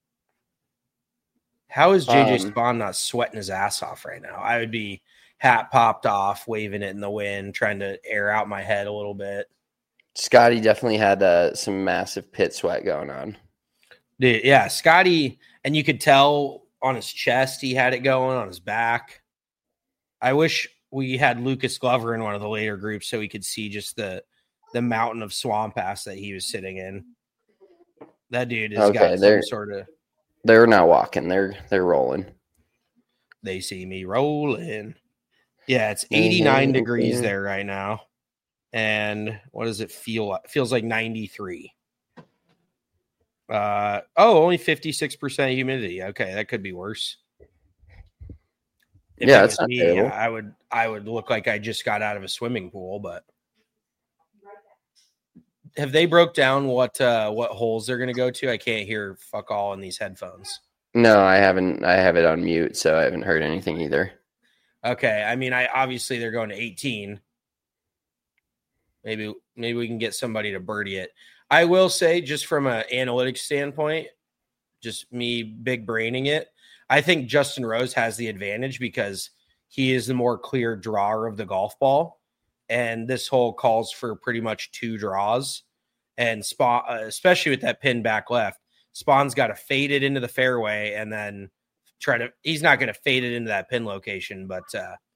Speaker 7: How is JJ Spawn not sweating his ass off right now? I would be hat popped off, waving it in the wind, trying to air out my head a little bit.
Speaker 5: Scotty definitely had some massive pit sweat going on.
Speaker 7: Dude, yeah, Scotty, and you could tell on his chest he had it going, on his back. I wish we had Lucas Glover in one of the later groups so we could see just the mountain of swamp ass that he was sitting in. That dude has got some sort of...
Speaker 5: They're not walking. They're rolling.
Speaker 7: They see me rolling. Yeah, it's 89 degrees there right now. And what does it feel like? It feels like 93. Only 56% humidity. Okay, that could be worse. If
Speaker 5: yeah, that's not terrible.
Speaker 7: I would look like I just got out of a swimming pool, but have they broke down what holes they're going to go to? I can't hear fuck all in these headphones.
Speaker 5: No, I haven't. I have it on mute, so I haven't heard anything either.
Speaker 7: Okay, I mean, obviously they're going to 18. Maybe we can get somebody to birdie it. I will say, just from an analytics standpoint, just me big braining it, I think Justin Rose has the advantage because he is the more clear drawer of the golf ball. And this hole calls for pretty much 2 draws. And Spawn, especially with that pin back left, Spawn's got to fade it into the fairway and then he's not going to fade it into that pin location. But,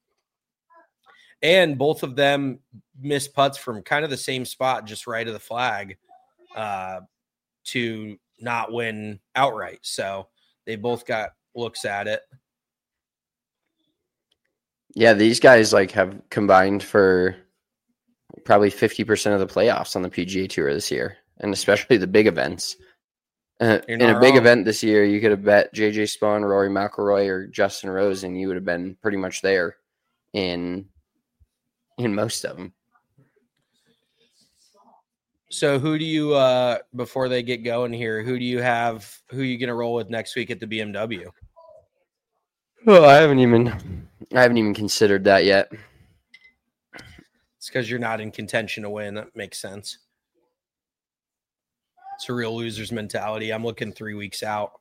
Speaker 7: and both of them miss putts from kind of the same spot, just right of the flag, to not win outright. So they both got looks at it.
Speaker 5: Yeah, these guys like have combined for probably 50% of the playoffs on the PGA Tour this year, and especially the big events. In a big event this year, you could have bet JJ Spawn, Rory McIlroy, or Justin Rose, and you would have been pretty much there in most of them.
Speaker 7: So who do you before they get going here, who are you going to roll with next week at the BMW?
Speaker 5: Oh, I haven't even considered that yet.
Speaker 7: It's because you're not in contention to win. That makes sense. It's a real loser's mentality. I'm looking 3 weeks out.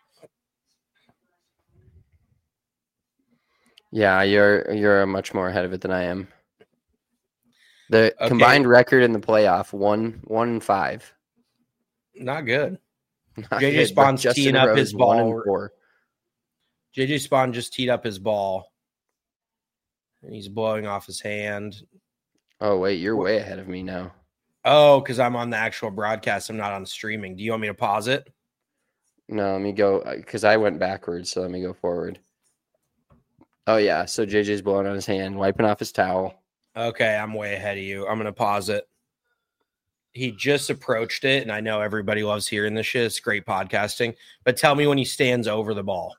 Speaker 5: Yeah, you're much more ahead of it than I am. The combined record in the playoff 1-5.
Speaker 7: Not good.
Speaker 5: Not
Speaker 7: JJ
Speaker 5: good,
Speaker 7: Spawn's teeing up his ball.
Speaker 5: 1-4.
Speaker 7: JJ Spawn just teed up his ball. And he's blowing off his hand.
Speaker 5: Oh, wait, you're way ahead of me now.
Speaker 7: Oh, because I'm on the actual broadcast. I'm not on streaming. Do you want me to pause it?
Speaker 5: No, let me go, because I went backwards, so let me go forward. Oh, yeah, so JJ's blowing on his hand, wiping off his towel.
Speaker 7: Okay, I'm way ahead of you. I'm going to pause it. He just approached it, and I know everybody loves hearing this shit. It's great podcasting. But tell me when he stands over the ball.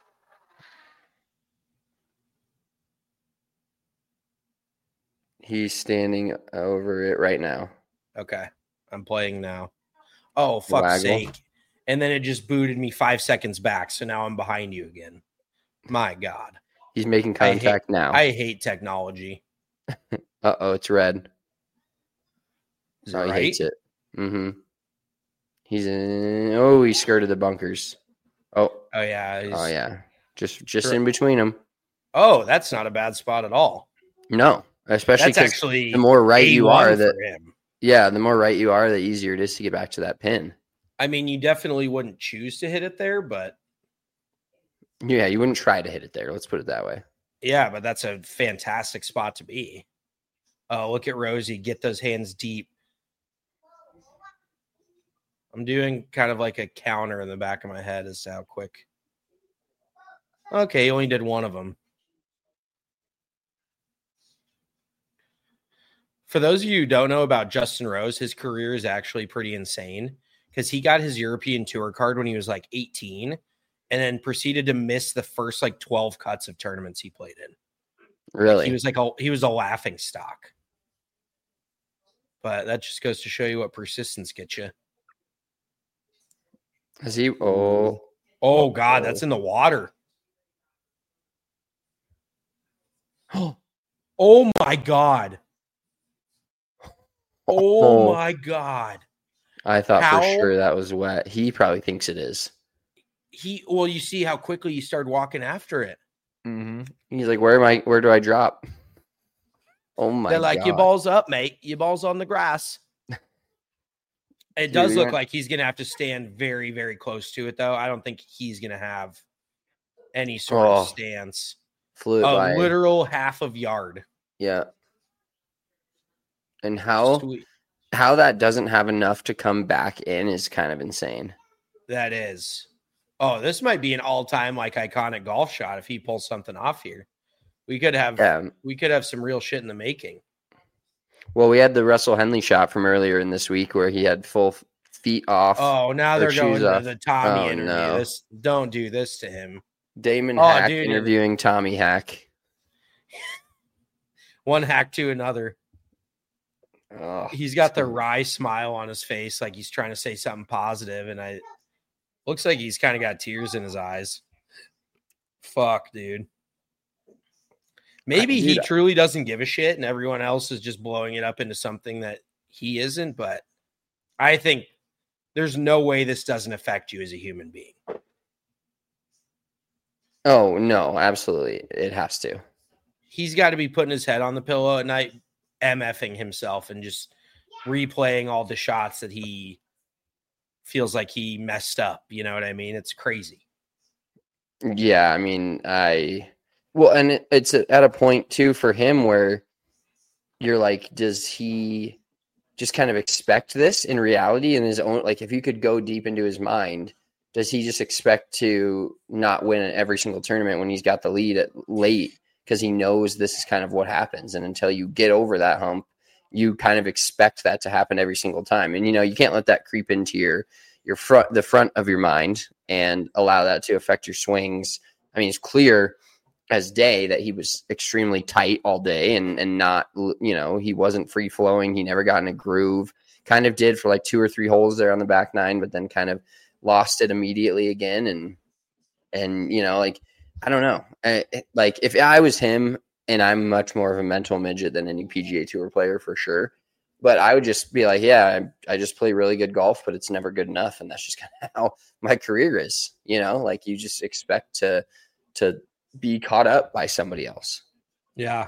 Speaker 5: He's standing over it right now.
Speaker 7: Okay, I'm playing now. Oh, fuck's
Speaker 5: Waggle.
Speaker 7: sake. And then it just booted me 5 seconds back, so now I'm behind you again. My God.
Speaker 5: He's making contact now.
Speaker 7: I hate technology.
Speaker 5: Uh-oh, it's red.
Speaker 7: Is it
Speaker 5: He
Speaker 7: right?
Speaker 5: hates it. Mm-hmm. He skirted the bunkers. Oh yeah. Just in between them.
Speaker 7: Oh, that's not a bad spot at all.
Speaker 5: No, especially
Speaker 7: That's actually
Speaker 5: the more right you are,
Speaker 7: for him.
Speaker 5: the more right you are, the easier it is to get back to that pin.
Speaker 7: I mean, you definitely wouldn't choose to hit it there, but
Speaker 5: Yeah, you wouldn't try to hit it there. Let's put it that way.
Speaker 7: yeah, but that's a fantastic spot to be. Oh, look at Rosie. Get those hands deep. I'm doing kind of like a counter in the back of my head as to how quick. Okay, he only did one of them. For those of you who don't know about Justin Rose, his career is actually pretty insane because he got his European Tour card when he was like 18 and then proceeded to miss the first like 12 cuts of tournaments he played in.
Speaker 5: Really?
Speaker 7: He was a laughing stock. But that just goes to show you what persistence gets you.
Speaker 5: Is he?
Speaker 7: Oh God, that's in the water. Oh my God. Oh my God.
Speaker 5: I thought for sure that was wet. He probably thinks it is.
Speaker 7: Well, you see how quickly he started walking after it.
Speaker 5: Mm-hmm. He's like, where do I drop? Oh my God.
Speaker 7: They're like, your ball's up, mate. Your ball's on the grass. It does look like he's going to have to stand very, very close to it, though. I don't think he's going to have any sort of stance.
Speaker 5: Flew by.
Speaker 7: Literal half of yard.
Speaker 5: Yeah. And how that doesn't have enough to come back in is kind of insane.
Speaker 7: That is. Oh, this might be an all-time like iconic golf shot if he pulls something off here. We could have some real shit in the making.
Speaker 5: Well, we had the Russell Henley shot from earlier in this week where he had full feet off.
Speaker 7: Oh, now they're going to the Tommy interview.
Speaker 5: No.
Speaker 7: Don't do this to him.
Speaker 5: Damon Hack interviewing Tommy Hack.
Speaker 7: One hack to another.
Speaker 5: Oh,
Speaker 7: he's got the wry smile on his face, like he's trying to say something positive, and looks like he's kind of got tears in his eyes. Fuck, dude. Maybe he truly doesn't give a shit, and everyone else is just blowing it up into something that he isn't. But I think there's no way this doesn't affect you as a human being.
Speaker 5: Oh no, absolutely, it has to.
Speaker 7: He's got to be putting his head on the pillow at night, MFing himself and just replaying all the shots that he feels like he messed up. You know what I mean? It's crazy.
Speaker 5: Yeah, I mean, and it's at a point too for him where you're like, does he just kind of expect this in reality in his own, like if you could go deep into his mind, does he just expect to not win at every single tournament when he's got the lead at late because he knows this is kind of what happens? And until you get over that hump, you kind of expect that to happen every single time. And, you can't let that creep into the front of your mind and allow that to affect your swings. I mean, it's clear as day that he was extremely tight all day and not, he wasn't free flowing. He never got in a groove. Kind of did for like 2 or 3 holes there on the back 9, but then kind of lost it immediately again. And I don't know. Like if I was him, and I'm much more of a mental midget than any PGA Tour player for sure, but I would just be like, yeah, I just play really good golf, but it's never good enough. And that's just kind of how my career is, like you just expect to be caught up by somebody else.
Speaker 7: Yeah.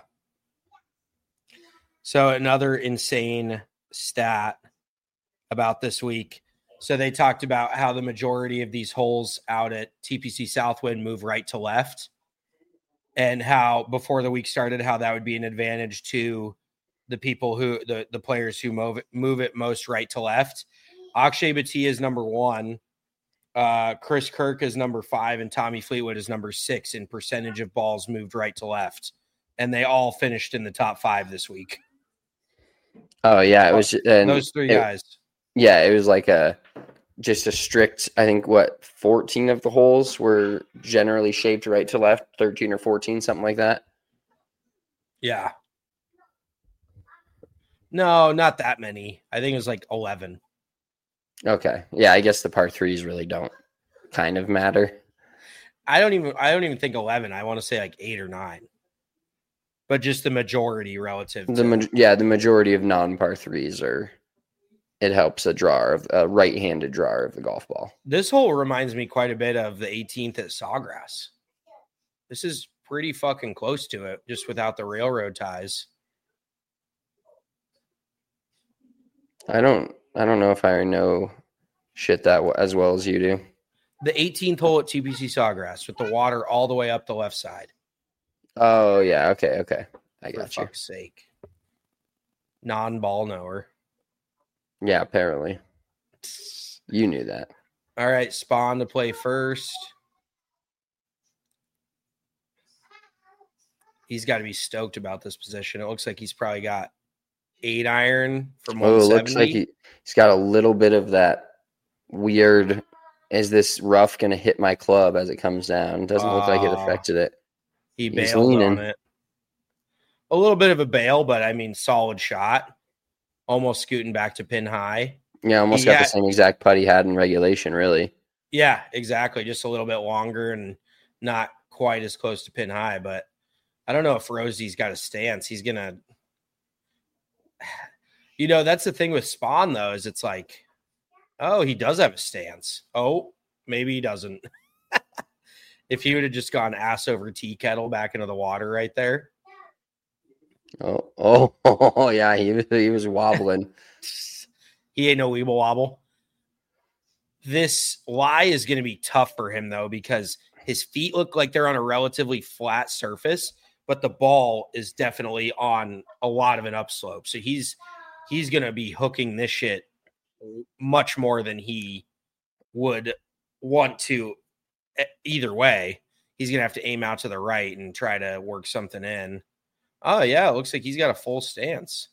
Speaker 7: So another insane stat about this week. So they talked about how the majority of these holes out at TPC Southwind move right to left, and how before the week started, how that would be an advantage to the people who the players who move it most right to left. Akshay Bhatia is number 1. Chris Kirk is number 5, and Tommy Fleetwood is number 6 in percentage of balls moved right to left. And they all finished in the top 5 this week.
Speaker 5: Oh yeah. It was
Speaker 7: those 3 guys.
Speaker 5: Yeah. It was like just a strict, I think 14 of the holes were generally shaped right to left, 13 or 14, something like that.
Speaker 7: Yeah. No, not that many. I think it was like 11.
Speaker 5: Okay. Yeah, I guess the par 3s really don't kind of matter.
Speaker 7: I don't even think 11. I want to say like 8 or 9. But just the majority relative to
Speaker 5: the majority of non-par 3s it helps a right-handed drawer of the golf ball.
Speaker 7: This hole reminds me quite a bit of the 18th at Sawgrass. This is pretty fucking close to it, just without the railroad ties.
Speaker 5: I don't know if I know shit that as well as you do.
Speaker 7: The 18th hole at TPC Sawgrass with the water all the way up the left side.
Speaker 5: Oh yeah, okay. I got you.
Speaker 7: For fuck's sake. Non-ball knower.
Speaker 5: Yeah, apparently. You knew that.
Speaker 7: All right, Spawn to play first. He's got to be stoked about this position. It looks like he's probably got 8 iron from 170.
Speaker 5: Oh, it looks like he's got a little bit of that weird, is this rough going to hit my club as it comes down? Doesn't look like it affected it.
Speaker 7: He bailed on it. A little bit of a bail, but I mean, solid shot. Almost scooting back to pin high.
Speaker 5: Yeah, almost got the same exact putt he had in regulation, really.
Speaker 7: Yeah, exactly. Just a little bit longer and not quite as close to pin high. But I don't know if Rosie's got a stance. He's going to... that's the thing with Spawn, though, is it's like, oh, he does have a stance. Oh, maybe he doesn't. If he would have just gone ass over tea kettle back into the water right there.
Speaker 5: Oh, yeah, he was wobbling.
Speaker 7: He ain't no weeble wobble. This lie is going to be tough for him, though, because his feet look like they're on a relatively flat surface, but the ball is definitely on a lot of an upslope. So he's going to be hooking this shit much more than he would want to either way. He's going to have to aim out to the right and try to work something in. Oh, yeah, it looks like he's got a full stance.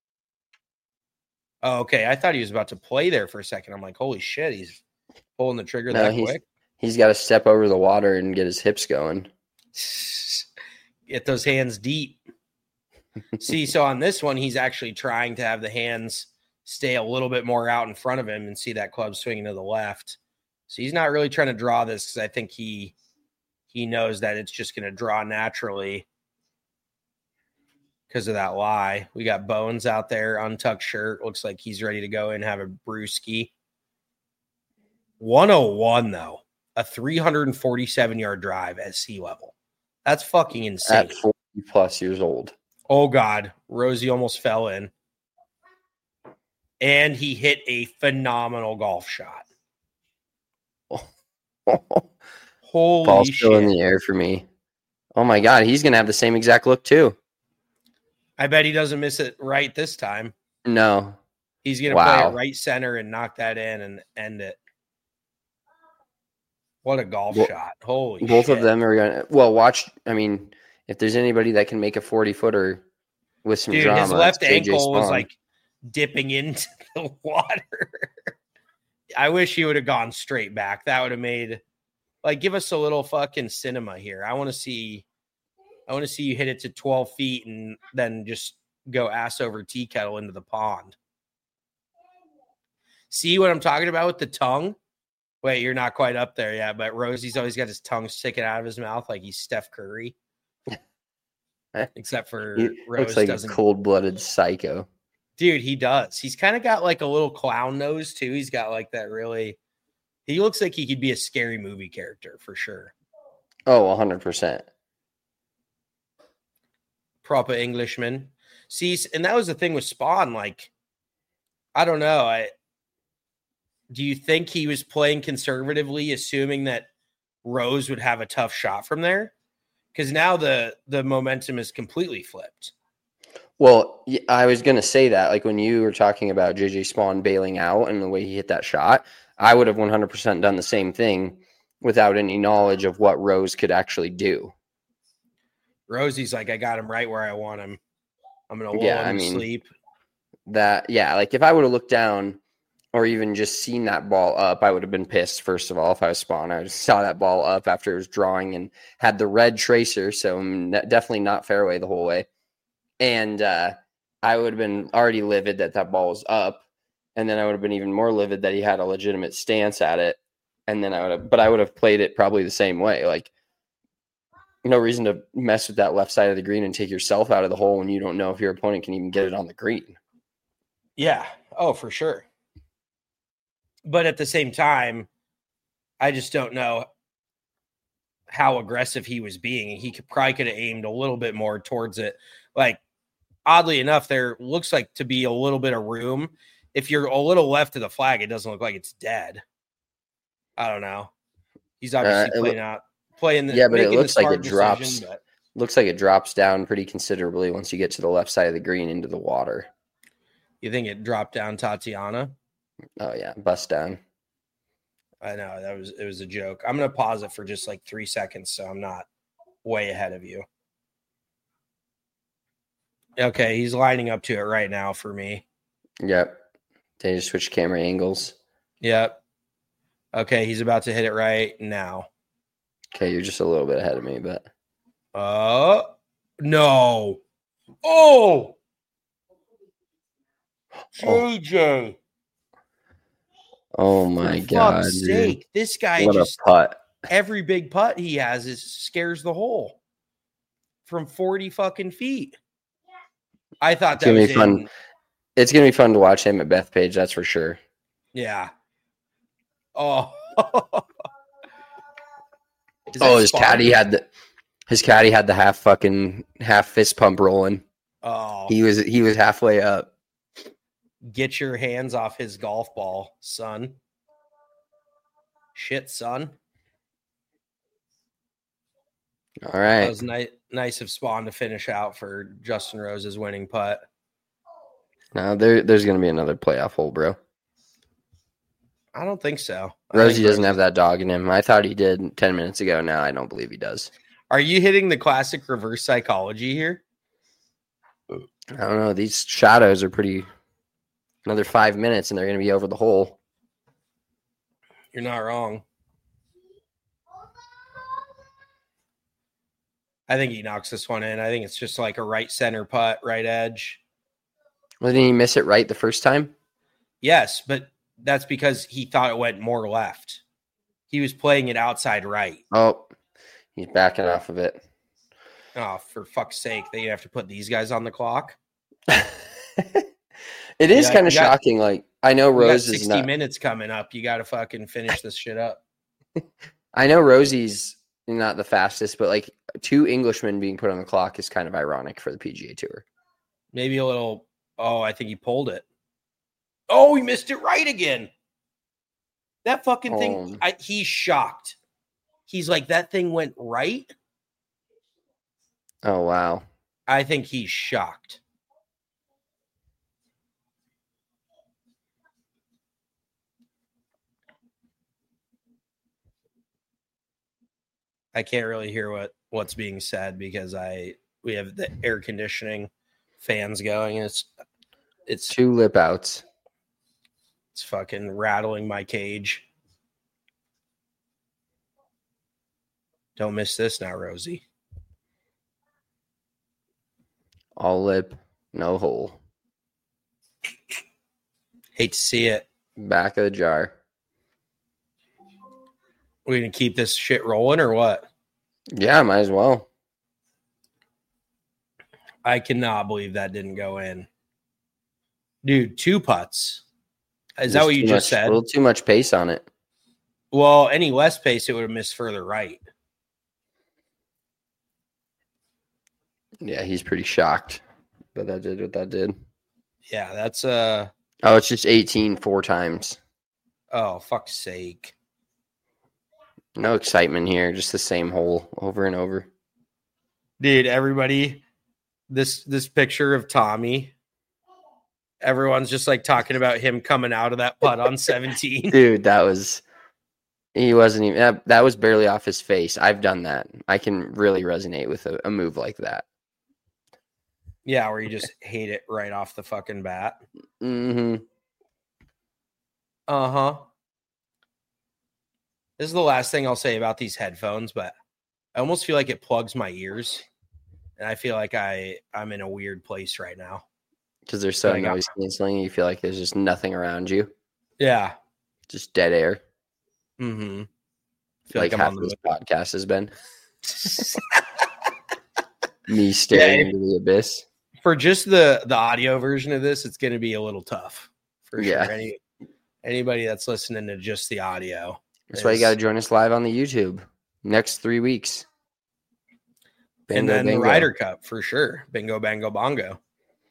Speaker 7: Oh, okay, I thought he was about to play there for a second. I'm like, holy shit, he's pulling the trigger that quick.
Speaker 5: He's got to step over the water and get his hips going.
Speaker 7: Get those hands deep. See, so on this one, he's actually trying to have the hands stay a little bit more out in front of him and see that club swinging to the left. So he's not really trying to draw this because I think he knows that it's just going to draw naturally because of that lie. We got Bones out there, untucked shirt. Looks like he's ready to go and have a brewski. 101, though. A 347-yard drive at sea level. That's fucking insane.
Speaker 5: At 40-plus years old.
Speaker 7: Oh, God. Rosie almost fell in. And he hit a phenomenal golf shot. Holy
Speaker 5: Ball's
Speaker 7: shit.
Speaker 5: still in the air for me. Oh, my God. He's going to have the same exact look, too.
Speaker 7: I bet he doesn't miss it right this time.
Speaker 5: No.
Speaker 7: He's going to play it right center and knock that in and end it. What a golf
Speaker 6: Well,
Speaker 7: shot. Holy
Speaker 6: Both
Speaker 7: shit.
Speaker 6: of them are going to, well, watch. I mean, if there's anybody that can make a 40-footer with some
Speaker 7: Dude,
Speaker 6: drama,
Speaker 7: his left
Speaker 6: it's JJ
Speaker 7: ankle was
Speaker 6: Spawn.
Speaker 7: like dipping into the water. I wish he would have gone straight back. That would have made, like, give us a little fucking cinema here. I want to see you hit it to 12 feet and then just go ass over tea kettle into the pond. See what I'm talking about with the tongue? Wait, you're not quite up there yet, but Rosie's always got his tongue sticking out of his mouth like he's Steph Curry. Except for
Speaker 6: He
Speaker 7: Rose
Speaker 6: looks like
Speaker 7: doesn't.
Speaker 6: a cold-blooded psycho.
Speaker 7: Dude, he does. He's kind of got like a little clown nose too. He's got like that really. He looks like he could be a scary movie character for sure.
Speaker 6: Oh, 100%.
Speaker 7: Proper Englishman. See, and that was the thing with Spawn. Like, I don't know. Do you think he was playing conservatively, assuming that Rose would have a tough shot from there? Because now the momentum is completely flipped.
Speaker 6: Well, I was going to say that, like when you were talking about JJ Spawn bailing out and the way he hit that shot, I would have 100% done the same thing without any knowledge of what Rose could actually do.
Speaker 7: Rosie's like, I got him right where I want him. I'm going to lull him to sleep.
Speaker 6: Like if I would have looked down or even just seen that ball up, I would have been pissed, first of all, if I was Spawn. I just saw that ball up after it was drawing and had the red tracer, so definitely not fairway the whole way. And I would have been already livid that ball was up, and then I would have been even more livid that he had a legitimate stance at it. And then I would have played it probably the same way. Like, no reason to mess with that left side of the green and take yourself out of the hole when you don't know if your opponent can even get it on the green.
Speaker 7: Yeah. Oh, for sure. But at the same time, I just don't know how aggressive he was being. He probably could have aimed a little bit more towards it. Like, oddly enough, there looks like to be a little bit of room. If you're a little left of the flag, it doesn't look like it's dead. I don't know. He's obviously playing the,
Speaker 6: yeah, but it looks like it drops.
Speaker 7: Decision, but
Speaker 6: looks like it drops down pretty considerably once you get to the left side of the green into the water.
Speaker 7: You think it dropped down Tatiana?
Speaker 6: Oh yeah, bust down.
Speaker 7: I know it was a joke. I'm gonna pause it for just like 3 seconds so I'm not way ahead of you. Okay, he's lining up to it right now for me.
Speaker 6: Yep. They just switch camera angles.
Speaker 7: Yep. Okay, he's about to hit it right now.
Speaker 6: Okay, you're just a little bit ahead of me, but
Speaker 7: no. Oh, JJ.
Speaker 6: Oh my
Speaker 7: For
Speaker 6: God,
Speaker 7: fuck's
Speaker 6: dude.
Speaker 7: sake. This guy
Speaker 6: What
Speaker 7: just
Speaker 6: a putt.
Speaker 7: every big putt he has scares the hole from 40 fucking feet. I thought that was
Speaker 6: fun. It's gonna be fun to watch him at Bethpage, that's for sure.
Speaker 7: Yeah. Oh.
Speaker 6: His caddy had the half fist pump rolling.
Speaker 7: Oh.
Speaker 6: He was halfway up.
Speaker 7: Get your hands off his golf ball, son. Shit, son.
Speaker 6: All right.
Speaker 7: That was nice of Spawn to finish out for Justin Rose's winning putt.
Speaker 6: Now there's going to be another playoff hole, bro.
Speaker 7: I don't think so.
Speaker 6: Rosie doesn't have that dog in him. I thought he did 10 minutes ago. Now I don't believe he does.
Speaker 7: Are you hitting the classic reverse psychology here?
Speaker 6: I don't know. These shadows are pretty. Another 5 minutes and they're going to be over the hole.
Speaker 7: You're not wrong. I think he knocks this one in. I think it's just like a right center putt, right edge.
Speaker 6: Well, didn't he miss it right the first time?
Speaker 7: Yes, but that's because he thought it went more left. He was playing it outside right.
Speaker 6: Oh, he's backing off of it.
Speaker 7: Oh, for fuck's sake. They have to put these guys on the clock.
Speaker 6: It is kind of shocking. Like, I know Rose is
Speaker 7: 60 minutes coming up. You got to fucking finish this shit up.
Speaker 6: I know Rosie's not the fastest, but like 2 Englishmen being put on the clock is kind of ironic for the PGA Tour.
Speaker 7: Maybe a little. Oh, I think he pulled it. Oh, he missed it right again. That fucking thing. He's shocked. He's like, that thing went right.
Speaker 6: Oh, wow.
Speaker 7: I think he's shocked. I can't really hear what's being said because we have the air conditioning fans going. It's
Speaker 5: 2 lip outs.
Speaker 7: It's fucking rattling my cage. Don't miss this now, Rosie.
Speaker 5: All lip, no hole.
Speaker 7: Hate to see it.
Speaker 5: Back of the jar.
Speaker 7: We're going to keep this shit rolling or what?
Speaker 5: Yeah, might as well.
Speaker 7: I cannot believe that didn't go in. Dude, 2 putts. Is that what you just said?
Speaker 5: A little too much pace on it.
Speaker 7: Well, any less pace, it would have missed further right.
Speaker 5: Yeah, he's pretty shocked. But that did what that did.
Speaker 7: Yeah, that's
Speaker 5: Oh, it's just 18 4 times.
Speaker 7: Oh, fuck's sake.
Speaker 5: No excitement here, just the same hole over and over.
Speaker 7: Dude, everybody, this picture of Tommy, everyone's just like talking about him coming out of that putt on 17.
Speaker 5: Dude, he wasn't even, that was barely off his face. I've done that. I can really resonate with a move like that.
Speaker 7: Yeah, where you just hate it right off the fucking bat.
Speaker 5: Mm-hmm.
Speaker 7: Uh-huh. This is the last thing I'll say about these headphones, but I almost feel like it plugs my ears. And I feel like I'm in a weird place right now.
Speaker 5: Because they're so noise canceling, you feel like there's just nothing around you.
Speaker 7: Yeah.
Speaker 5: Just dead air.
Speaker 7: Mm-hmm.
Speaker 5: Like half of this podcast has been. Me staring into the abyss.
Speaker 7: For just the audio version of this, it's going to be a little tough. For sure. Anybody that's listening to just the audio.
Speaker 5: That's why you got to join us live on the YouTube next 3 weeks.
Speaker 7: Bingo, and then Bango. The Ryder Cup for sure. Bingo, bango, bongo.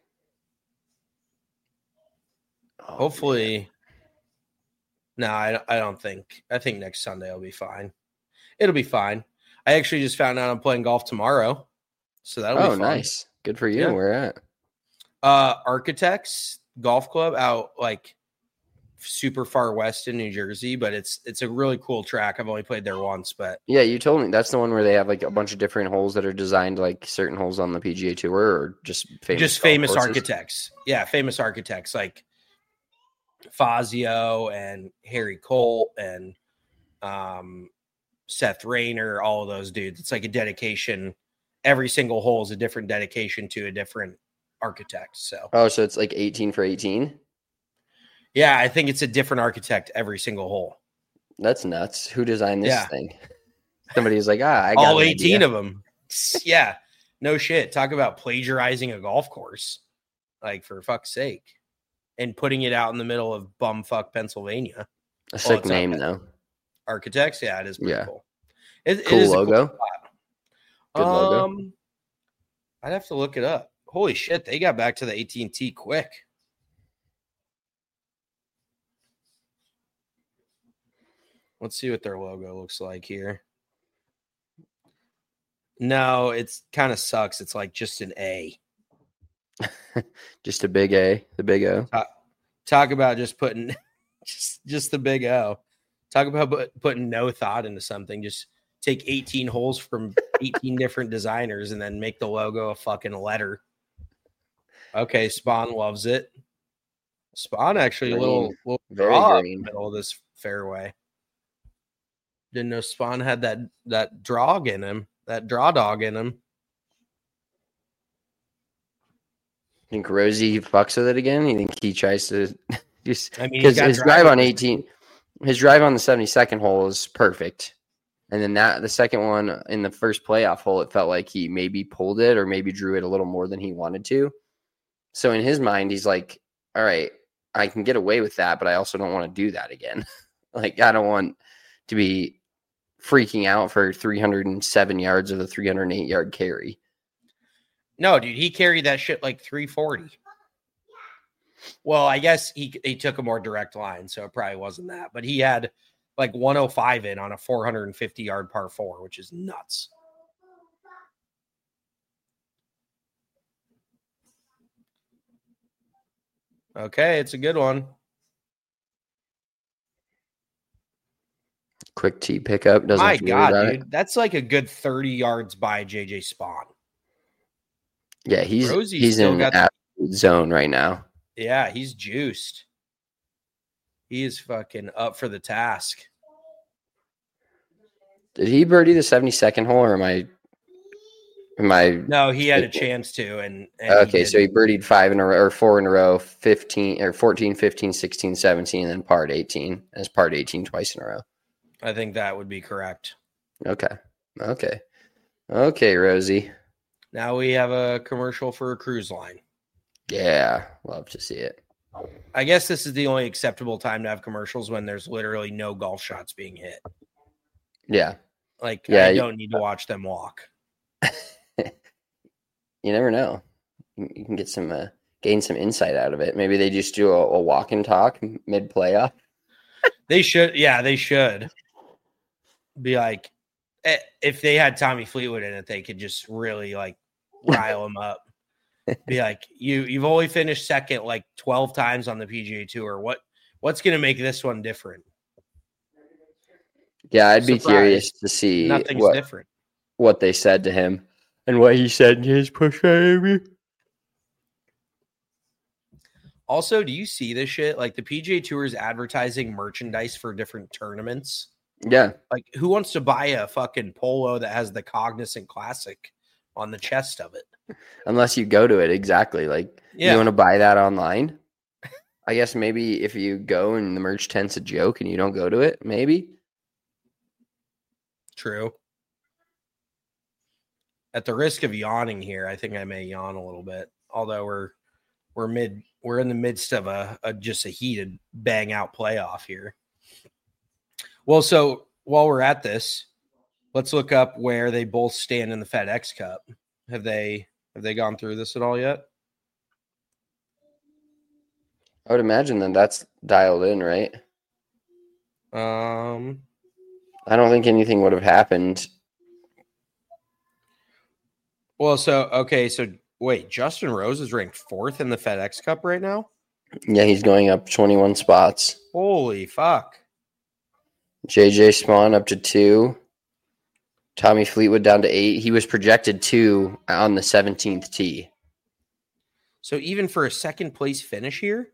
Speaker 7: Oh, hopefully. Man. No, I don't think. I think next Sunday will be fine. It'll be fine. I actually just found out I'm playing golf tomorrow. So that'll be fun.
Speaker 5: Nice. Good for you.
Speaker 7: Yeah.
Speaker 5: Where at?
Speaker 7: Architects Golf Club out like super far west in New Jersey, but it's a really cool track. I've only played there once, but
Speaker 5: yeah, you told me that's the one where they have like a bunch of different holes that are designed like certain holes on the PGA Tour, or just famous
Speaker 7: architects. Yeah, famous architects like Fazio and Harry Colt and Seth Rayner, all of those dudes. It's like a dedication. Every single hole is a different dedication to a different architect. So
Speaker 5: so it's like 18 for 18.
Speaker 7: Yeah, I think it's a different architect every single hole.
Speaker 5: That's nuts. Who designed this thing? Somebody was like, I got
Speaker 7: all 18 of them. Yeah, no shit. Talk about plagiarizing a golf course, like for fuck's sake, and putting it out in the middle of bumfuck Pennsylvania.
Speaker 5: A sick name though.
Speaker 7: Architects, yeah, it is pretty cool.
Speaker 5: Cool it is logo.
Speaker 7: A cool spot. Good logo. I'd have to look it up. Holy shit, they got back to the AT&T quick. Let's see what their logo looks like here. No, it's kind of sucks. It's like just an A.
Speaker 5: Just a big A, the big O.
Speaker 7: Talk about just putting just the big O. Talk about putting no thought into something. Just take 18 holes from 18 different designers and then make the logo a fucking letter. Okay, Spawn loves it. Spawn actually
Speaker 5: green.
Speaker 7: A little
Speaker 5: very
Speaker 7: draw
Speaker 5: green.
Speaker 7: In the middle of this fairway. Didn't know Spawn had that draw dog in him.
Speaker 5: Think Rosie fucks with it again? You think he tries to just
Speaker 7: because
Speaker 5: his drive on 18, his drive on the 72nd hole is perfect. And then the second one in the first playoff hole, it felt like he maybe pulled it or maybe drew it a little more than he wanted to. So in his mind, he's like, all right, I can get away with that, but I also don't want to do that again. Like, I don't want to be freaking out for 307 yards of the 308-yard carry.
Speaker 7: No, dude, he carried that shit like 340. Well, I guess he took a more direct line, so it probably wasn't that. But he had like 105 in on a 450-yard par 4, which is nuts. Okay, it's a good one.
Speaker 6: Quick tee pickup. Doesn't
Speaker 7: My
Speaker 6: have to worry about
Speaker 7: God,
Speaker 6: it.
Speaker 7: dude. That's like a good 30 yards by JJ Spawn.
Speaker 6: Yeah,
Speaker 7: Rosie's
Speaker 6: he's
Speaker 7: still
Speaker 6: in
Speaker 7: got
Speaker 6: absolute zone right now.
Speaker 7: Yeah, he's juiced. He is fucking up for the task.
Speaker 6: Did he birdie the 72nd hole, or am I?
Speaker 7: No, he had a chance to, and
Speaker 6: Okay, so he birdied 5 in a row or 4 in a row, 15 or 14, 15, 16, 17, and then parred 18. As parred 18 twice in a row.
Speaker 7: I think that would be correct.
Speaker 6: Okay, Rosie.
Speaker 7: Now we have a commercial for a cruise line.
Speaker 6: Yeah, love to see it.
Speaker 7: I guess this is the only acceptable time to have commercials when there's literally no golf shots being hit.
Speaker 6: Yeah.
Speaker 7: Like,
Speaker 6: Yeah,
Speaker 7: I don't need to watch them walk.
Speaker 6: You never know. You can get some gain some insight out of it. Maybe they just do a walk and talk mid playoff.
Speaker 7: They should. Yeah, they should. Be like, if they had Tommy Fleetwood in it, they could just really like rile him up. Be like, you've only finished second like 12 times on the PGA Tour. What's going to make this one different?
Speaker 6: Yeah, I'd be curious to see
Speaker 7: Nothing's different.
Speaker 6: What they said to him and what he said in his push interview.
Speaker 7: Also, do you see this shit? Like the PGA Tour is advertising merchandise for different tournaments.
Speaker 6: Yeah.
Speaker 7: Like who wants to buy a fucking polo that has the Cognizant Classic on the chest of it?
Speaker 6: Unless you go to it, exactly. Like, you want to buy that online? I guess maybe if you go and the merch tent's a joke and you don't go to it, maybe.
Speaker 7: True. At the risk of yawning here, I think I may yawn a little bit. Although we're in the midst of a heated bang out playoff here. Well, so while we're at this, let's look up where they both stand in the FedEx Cup. Have they gone through this at all yet?
Speaker 6: I would imagine that that's dialed in, right? I don't think anything would have happened.
Speaker 7: Well, so wait, Justin Rose is ranked 4th in the FedEx Cup right now?
Speaker 6: Yeah, he's going up 21 spots.
Speaker 7: Holy fuck.
Speaker 6: JJ Spawn up to 2. Tommy Fleetwood down to 8. He was projected 2 on the 17th tee.
Speaker 7: So even for a second place finish here?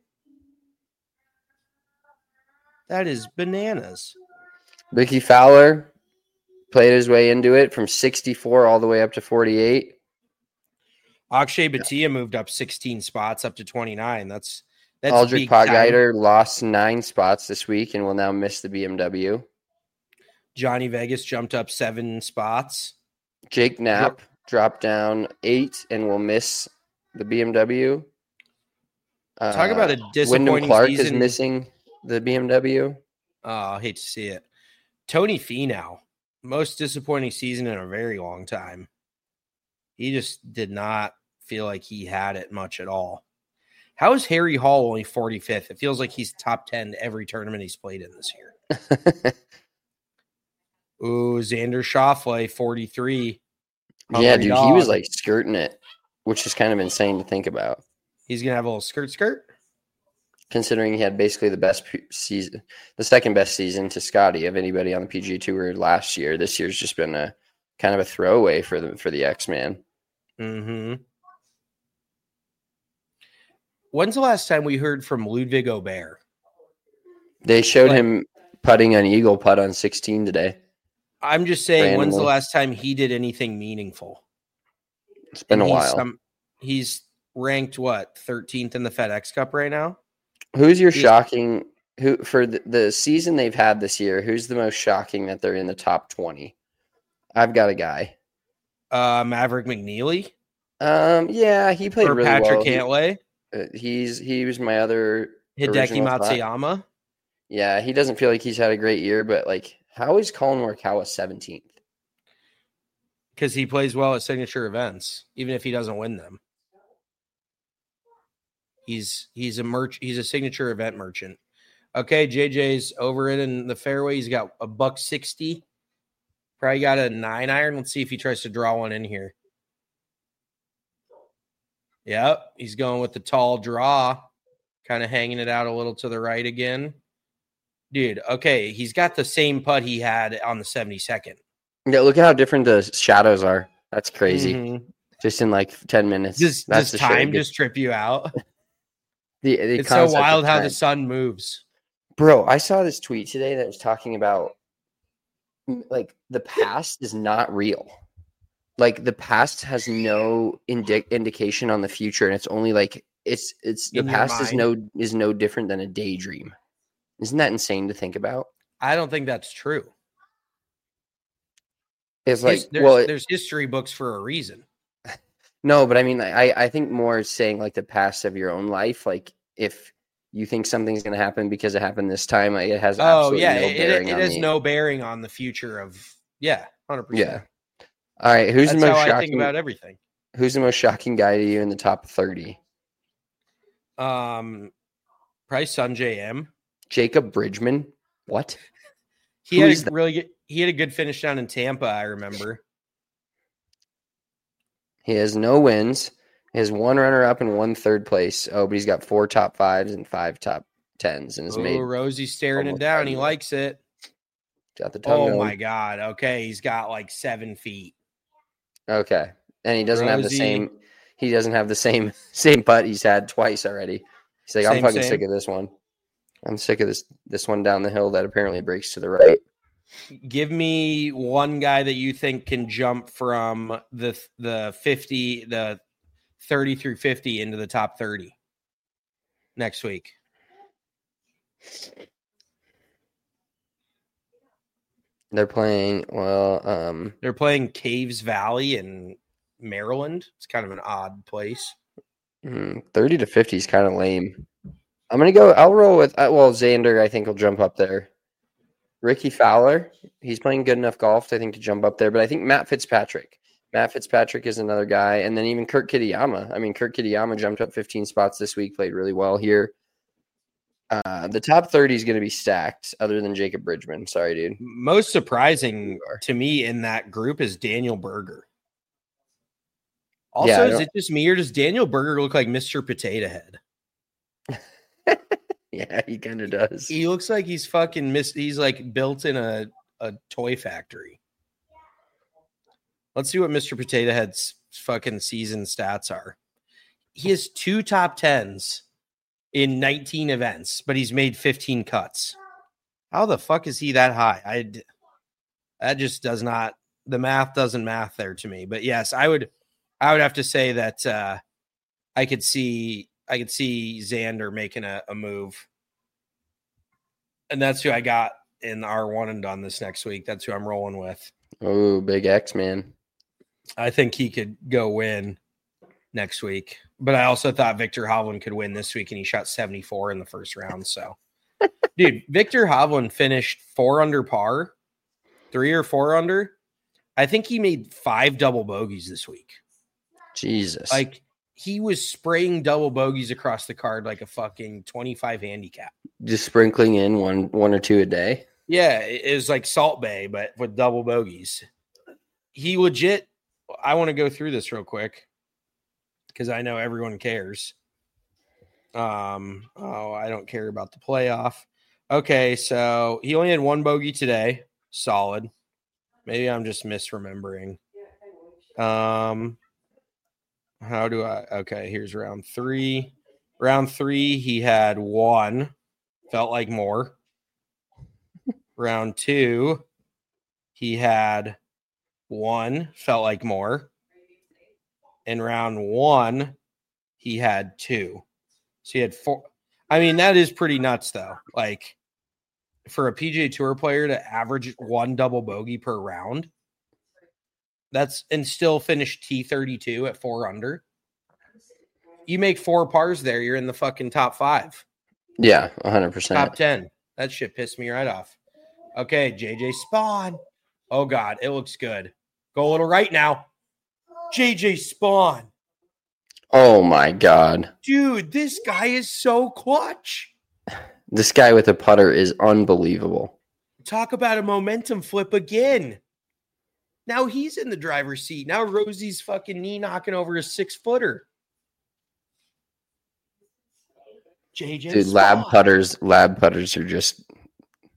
Speaker 7: That is bananas.
Speaker 6: Ricky Fowler played his way into it from 64 all the way up to 48.
Speaker 7: Akshay Bhatia moved up 16 spots up to 29. That's
Speaker 6: Aldrich Potgieter lost 9 spots this week and will now miss the BMW.
Speaker 7: Johnny Vegas jumped up 7 spots.
Speaker 6: Jake Knapp dropped down 8 and will miss the BMW.
Speaker 7: Talk about a disappointing
Speaker 6: Wyndham Clark
Speaker 7: season.
Speaker 6: is missing the BMW.
Speaker 7: I hate to see it. Tony Finau, most disappointing season in a very long time. He just did not feel like he had it much at all. How is Harry Hall only 45th? It feels like he's top 10 every tournament he's played in this year. Ooh, Xander Schauffele, 43.
Speaker 6: Yeah, dude, he was like skirting it, which is kind of insane to think about.
Speaker 7: He's going to have a little skirt?
Speaker 6: Considering he had basically the best season, the second best season to Scotty of anybody on the PGA Tour last year. This year's just been a kind of a throwaway for the X-Man.
Speaker 7: Mm-hmm. When's the last time we heard from Ludwig Aubert?
Speaker 6: They showed him putting an eagle putt on 16 today.
Speaker 7: I'm just saying, when's the last time he did anything meaningful?
Speaker 6: It's been a while.
Speaker 7: He's ranked, 13th in the FedEx Cup right now?
Speaker 6: Who's your shocking – who for the season they've had this year, who's the most shocking that they're in the top 20? I've got a guy.
Speaker 7: Maverick McNeely?
Speaker 6: Yeah, he played really well.
Speaker 7: Patrick Cantlay?
Speaker 6: He was my other
Speaker 7: Hideki Matsuyama?
Speaker 6: Thought. Yeah, he doesn't feel like he's had a great year, but how is Colin Morikawa 17th?
Speaker 7: Because he plays well at signature events, even if he doesn't win them. He's a signature event merchant. Okay, JJ's over it in the fairway. He's got a $160. Probably got a 9-iron. Let's see if he tries to draw one in here. Yep, he's going with the tall draw, kind of hanging it out a little to the right again. Dude, okay, he's got the same putt he had on the 72nd.
Speaker 6: Yeah, look at how different the shadows are. That's crazy.
Speaker 7: Mm-hmm.
Speaker 6: Just in like 10 minutes.
Speaker 7: Does time just trip you out? It's so wild how the sun moves.
Speaker 6: Bro, I saw this tweet today that was talking about like the past is not real. Like the past has no indication on the future, and it's only like it's the past is no different than a daydream. Isn't that insane to think about?
Speaker 7: I don't think that's true.
Speaker 6: It's like
Speaker 7: there's history books for a reason.
Speaker 6: No, but I mean, I think more saying like the past of your own life. Like if you think something's going to happen because it happened this time, like it has absolutely no bearing.
Speaker 7: It has no bearing on the future of 100%.
Speaker 6: Yeah. All right, who's the most shocking?
Speaker 7: I think about everything.
Speaker 6: Who's the most shocking guy to you in the top 30?
Speaker 7: Probably Sungjae M.
Speaker 6: Jacob Bridgman. What?
Speaker 7: He had a good finish down in Tampa, I remember.
Speaker 6: He has no wins. He has one runner-up and one third place. Oh, but he's got 4 top 5s and 5 top 10s, and has made.
Speaker 7: Rosie's staring it down. He likes it.
Speaker 6: Got the tongue.
Speaker 7: Oh my God. Okay, he's got like 7 feet.
Speaker 6: Okay, and he doesn't have the same. He doesn't have the same putt he's had twice already. He's like, I'm fucking sick of this one. I'm sick of this one down the hill that apparently breaks to the right.
Speaker 7: Give me one guy that you think can jump from the 30 through 50 into the top 30 next week.
Speaker 6: They're playing
Speaker 7: they're playing Caves Valley in Maryland. It's kind of an odd place.
Speaker 6: 30 to 50 is kind of lame. I'll roll with Xander. I think will jump up there. Ricky Fowler, he's playing good enough golf, I think, to jump up there. But I think Matt Fitzpatrick is another guy. And then even Kurt Kitayama. I mean, Kurt Kitayama jumped up 15 spots this week, played really well here. The top 30 is going to be stacked other than Jacob Bridgman. Sorry, dude.
Speaker 7: Most surprising to me in that group is Daniel Berger. Also, is it just me or does Daniel Berger look like Mr. Potato Head?
Speaker 6: Yeah, he kind of does.
Speaker 7: He looks like he's fucking he's like built in a toy factory. Let's see what Mr. Potato Head's fucking season stats are. He has 2 top 10s in 19 events, but he's made 15 cuts. How the fuck is he that high? That just does not, the math doesn't math there to me. But yes, I would have to say that I could see Xander making a move. And that's who I got in our one and done this next week. That's who I'm rolling with.
Speaker 6: Oh, big X, man.
Speaker 7: I think he could go win next week. But I also thought Victor Hovland could win this week, and he shot 74 in the first round. So, dude, Victor Hovland finished 4 under par, 3 or 4 under. I think he made 5 double bogeys this week.
Speaker 6: Jesus.
Speaker 7: Like, he was spraying double bogeys across the card like a fucking 25 handicap.
Speaker 6: Just sprinkling in one or 2 a day.
Speaker 7: Yeah, it was like Salt Bay, but with double bogeys. He legit, I want to go through this real quick because I know everyone cares. I don't care about the playoff. Okay, so he only had 1 bogey today. Solid. Maybe I'm just misremembering. Here's round 3. Round 3, he had 1. Felt like more. Round 2, he had 1. Felt like more. In round 1, he had 2. So he had 4. I mean, that is pretty nuts, though. Like, for a PGA Tour player to average 1 double bogey per round, and still finish T32 at 4 under. You make 4 pars there, you're in the fucking top 5.
Speaker 6: Yeah, 100%.
Speaker 7: Top 10. That shit pissed me right off. Okay, JJ Spawn. Oh, God, it looks good. Go a little right now. JJ Spawn.
Speaker 6: Oh, my God.
Speaker 7: Dude, this guy is so clutch.
Speaker 6: This guy with a putter is unbelievable.
Speaker 7: Talk about a momentum flip again. Now he's in the driver's seat. Now Rosie's fucking knee knocking over a 6-footer. JJ
Speaker 6: Dude,
Speaker 7: Spawn.
Speaker 6: lab putters are just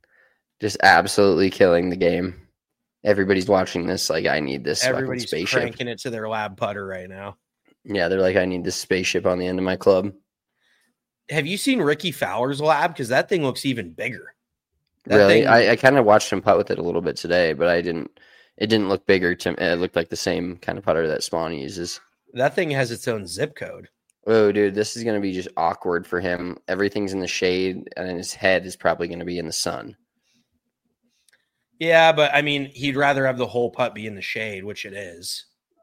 Speaker 5: Just absolutely killing the game. Everybody's watching this like, I need this
Speaker 7: Everybody's
Speaker 5: fucking spaceship.
Speaker 7: cranking it to their lab putter right now.
Speaker 5: Yeah, they're like, I need this spaceship on the end of my club.
Speaker 7: Have you seen Ricky Fowler's lab? Because that thing looks even bigger.
Speaker 5: Really? I kind of watched him putt with it a little bit today, but it didn't look bigger to me. It looked like the same kind of putter that Spawn uses.
Speaker 7: That thing has its own zip code.
Speaker 5: Oh, dude, this is going to be just awkward for him. Everything's in the shade, and then his head is probably going to be in the sun.
Speaker 7: Yeah, but I mean, he'd rather have the whole putt be in the shade, which it is.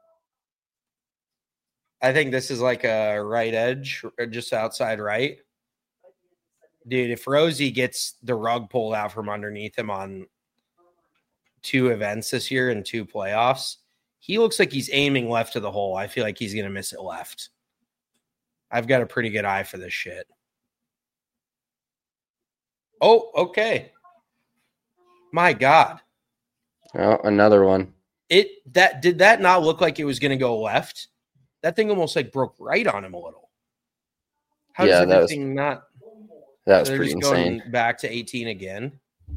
Speaker 7: I think this is like a right edge, or just outside right. Dude, if Rosie gets the rug pulled out from underneath him on 2 events this year and 2 playoffs, he looks like he's aiming left to the hole. I feel like he's going to miss it left. I've got a pretty good eye for this shit. Oh, okay. My God.
Speaker 5: Oh, another one.
Speaker 7: Did that not look like it was going to go left? That thing almost like broke right on him a little. How does everything not?
Speaker 5: That was pretty insane.
Speaker 7: Going back to 18 again.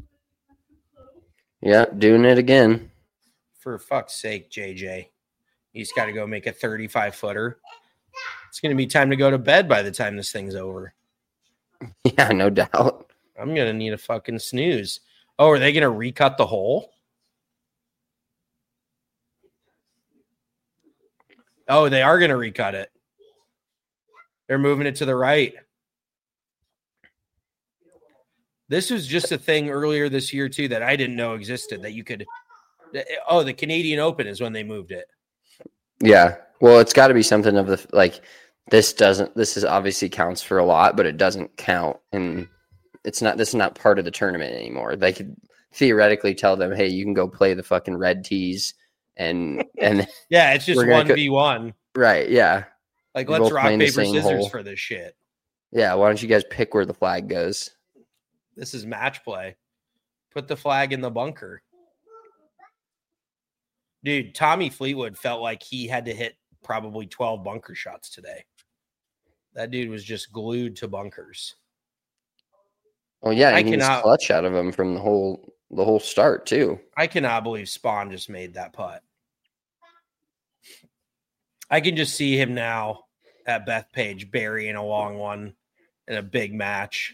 Speaker 5: Yeah, doing it again.
Speaker 7: For fuck's sake, JJ. He's got to go make a 35-footer. It's going to be time to go to bed by the time this thing's over.
Speaker 5: Yeah, no doubt.
Speaker 7: I'm going to need a fucking snooze. Oh, are they going to recut the hole? Oh, they are going to recut it. They're moving it to the right. This was just a thing earlier this year, too, that I didn't know existed, that you could... Oh, the Canadian Open is when they moved it.
Speaker 5: Yeah. Well, it's got to be something of the... Like, this is obviously counts for a lot, but it doesn't count. And this is not part of the tournament anymore. They could theoretically tell them, hey, you can go play the fucking red tees. And
Speaker 7: yeah, it's just 1v1.
Speaker 5: Right, yeah.
Speaker 7: Like, let's rock, paper, scissors hole for this shit.
Speaker 5: Yeah, why don't you guys pick where the flag goes?
Speaker 7: This is match play. Put the flag in the bunker. Dude, Tommy Fleetwood felt like he had to hit probably 12 bunker shots today. That dude was just glued to bunkers.
Speaker 5: Oh, yeah, and he was clutch out of him from the whole start, too.
Speaker 7: I cannot believe Spawn just made that putt. I can just see him now at Bethpage burying a long one in a big match.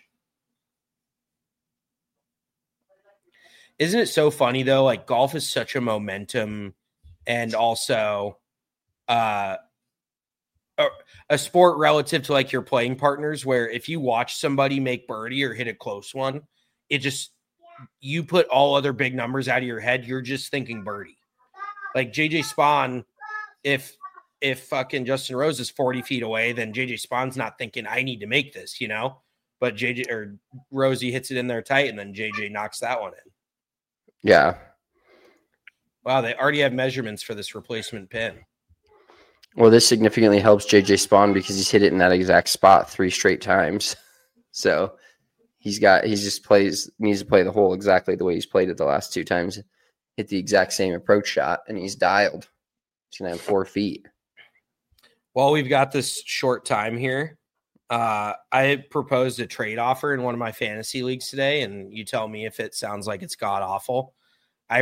Speaker 7: Isn't it so funny, though? Like, golf is such a momentum and also a sport relative to, like, your playing partners, where if you watch somebody make birdie or hit a close one, it just, you put all other big numbers out of your head. You're just thinking birdie. Like, JJ Spawn, if fucking Justin Rose is 40 feet away, then JJ Spawn's not thinking, I need to make this, you know? But JJ or Rosie hits it in there tight, and then JJ knocks that one in.
Speaker 5: Yeah.
Speaker 7: Wow, they already have measurements for this replacement pin.
Speaker 5: Well, this significantly helps JJ Spawn because he's hit it in that exact spot 3 straight times. So needs to play the hole exactly the way he's played it the last 2 times. Hit the exact same approach shot, and he's dialed. He's going to have 4 feet.
Speaker 7: Well, we've got this short time here. I proposed a trade offer in one of my fantasy leagues today, and you tell me if it sounds like it's god awful. I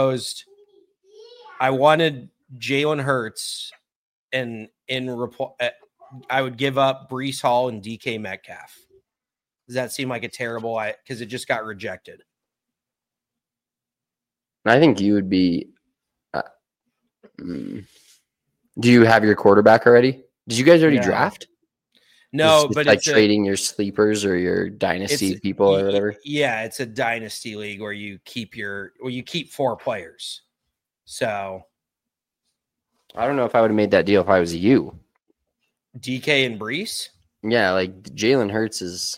Speaker 7: wanted Jalen Hurts, and in reply, I would give up Breece Hall and DK Metcalf. Does that seem like a terrible? Because it just got rejected.
Speaker 5: I think you would be. Do you have your quarterback already? Did you guys already draft?
Speaker 7: No,
Speaker 5: it's
Speaker 7: but
Speaker 5: like
Speaker 7: it's
Speaker 5: trading your sleepers or your dynasty people or whatever.
Speaker 7: Yeah, it's a dynasty league where you keep 4 players. So
Speaker 5: I don't know if I would have made that deal if I was you.
Speaker 7: DK and Breece?
Speaker 5: Yeah, like Jalen Hurts is.